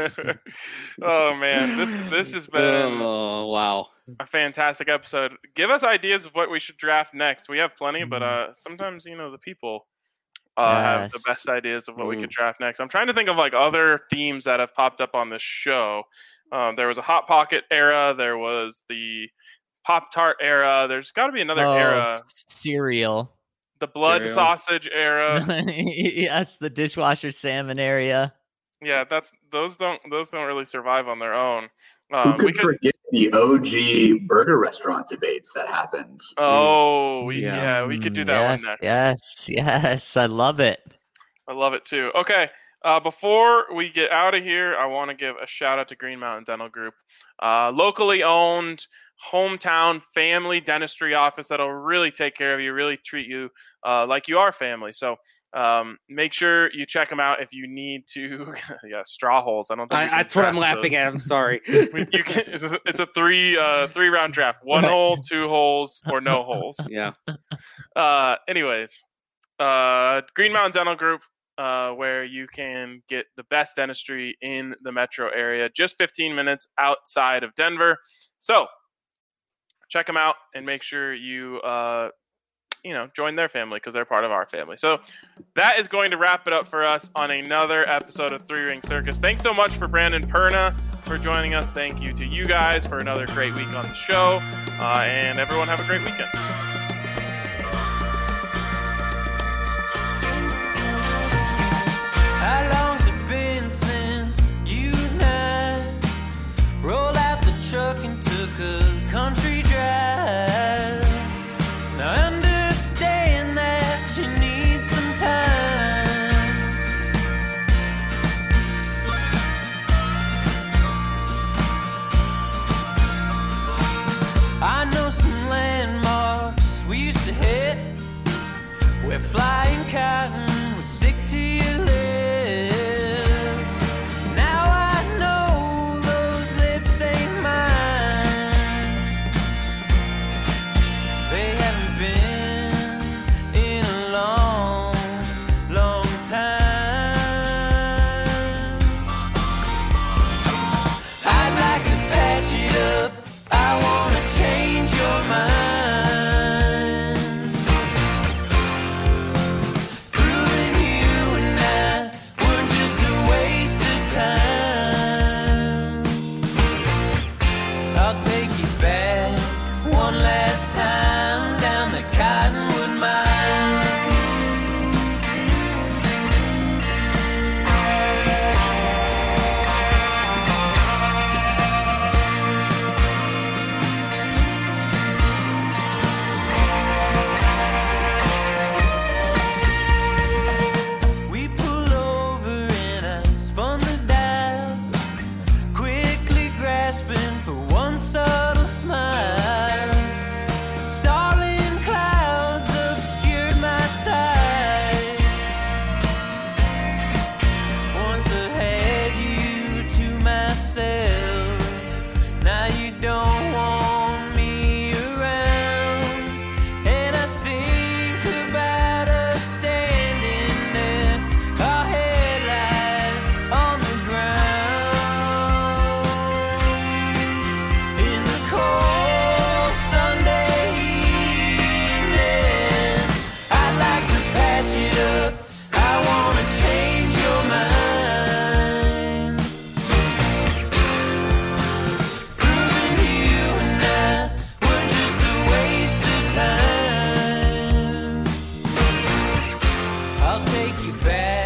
Oh man, this this has been Oh wow. a fantastic episode. Give us ideas of what we should draft next. We have plenty, but uh, sometimes you know the people uh, have the Yes. best ideas of what we Mm. could draft next. I'm trying to think of like other themes that have popped up on this show. Um, there was a Hot Pocket era. There was the Pop Tart era. There's got to be another oh, era. cereal. The blood Cereal. sausage era. Yes, the dishwasher salmon area. Yeah, that's those don't those don't really survive on their own. Who Um, could, we could. forget the O G burger restaurant debates that happened? Oh, we, Yeah. yeah. we could do that yes, one next. Yes, yes, I love it. I love it too. Okay, uh, before we get out of here, I want to give a shout out to Green Mountain Dental Group, uh, locally owned, hometown family dentistry office that'll really take care of you, really treat you uh, like you are family. So um, make sure you check them out if you need to. Yeah, straw holes. I don't think we I, can that's what I'm draft laughing those. at. I'm sorry. We- you can, it's a three uh, three round draft: one Right. hole, two holes, or no holes. Yeah. Uh, anyways, uh, Green Mountain Dental Group, uh, where you can get the best dentistry in the metro area, just fifteen minutes outside of Denver. So check them out and make sure you, uh, you know, join their family because they're part of our family. So that is going to wrap it up for us on another episode of Three Ring Circus. Thanks so much for Brandon Perna for joining us. Thank you to you guys for another great week on the show. Uh, and everyone have a great weekend. How long's it been since you and I rolled out the truck and took a country drive? Now I understand that you need some time. I know some landmarks bad.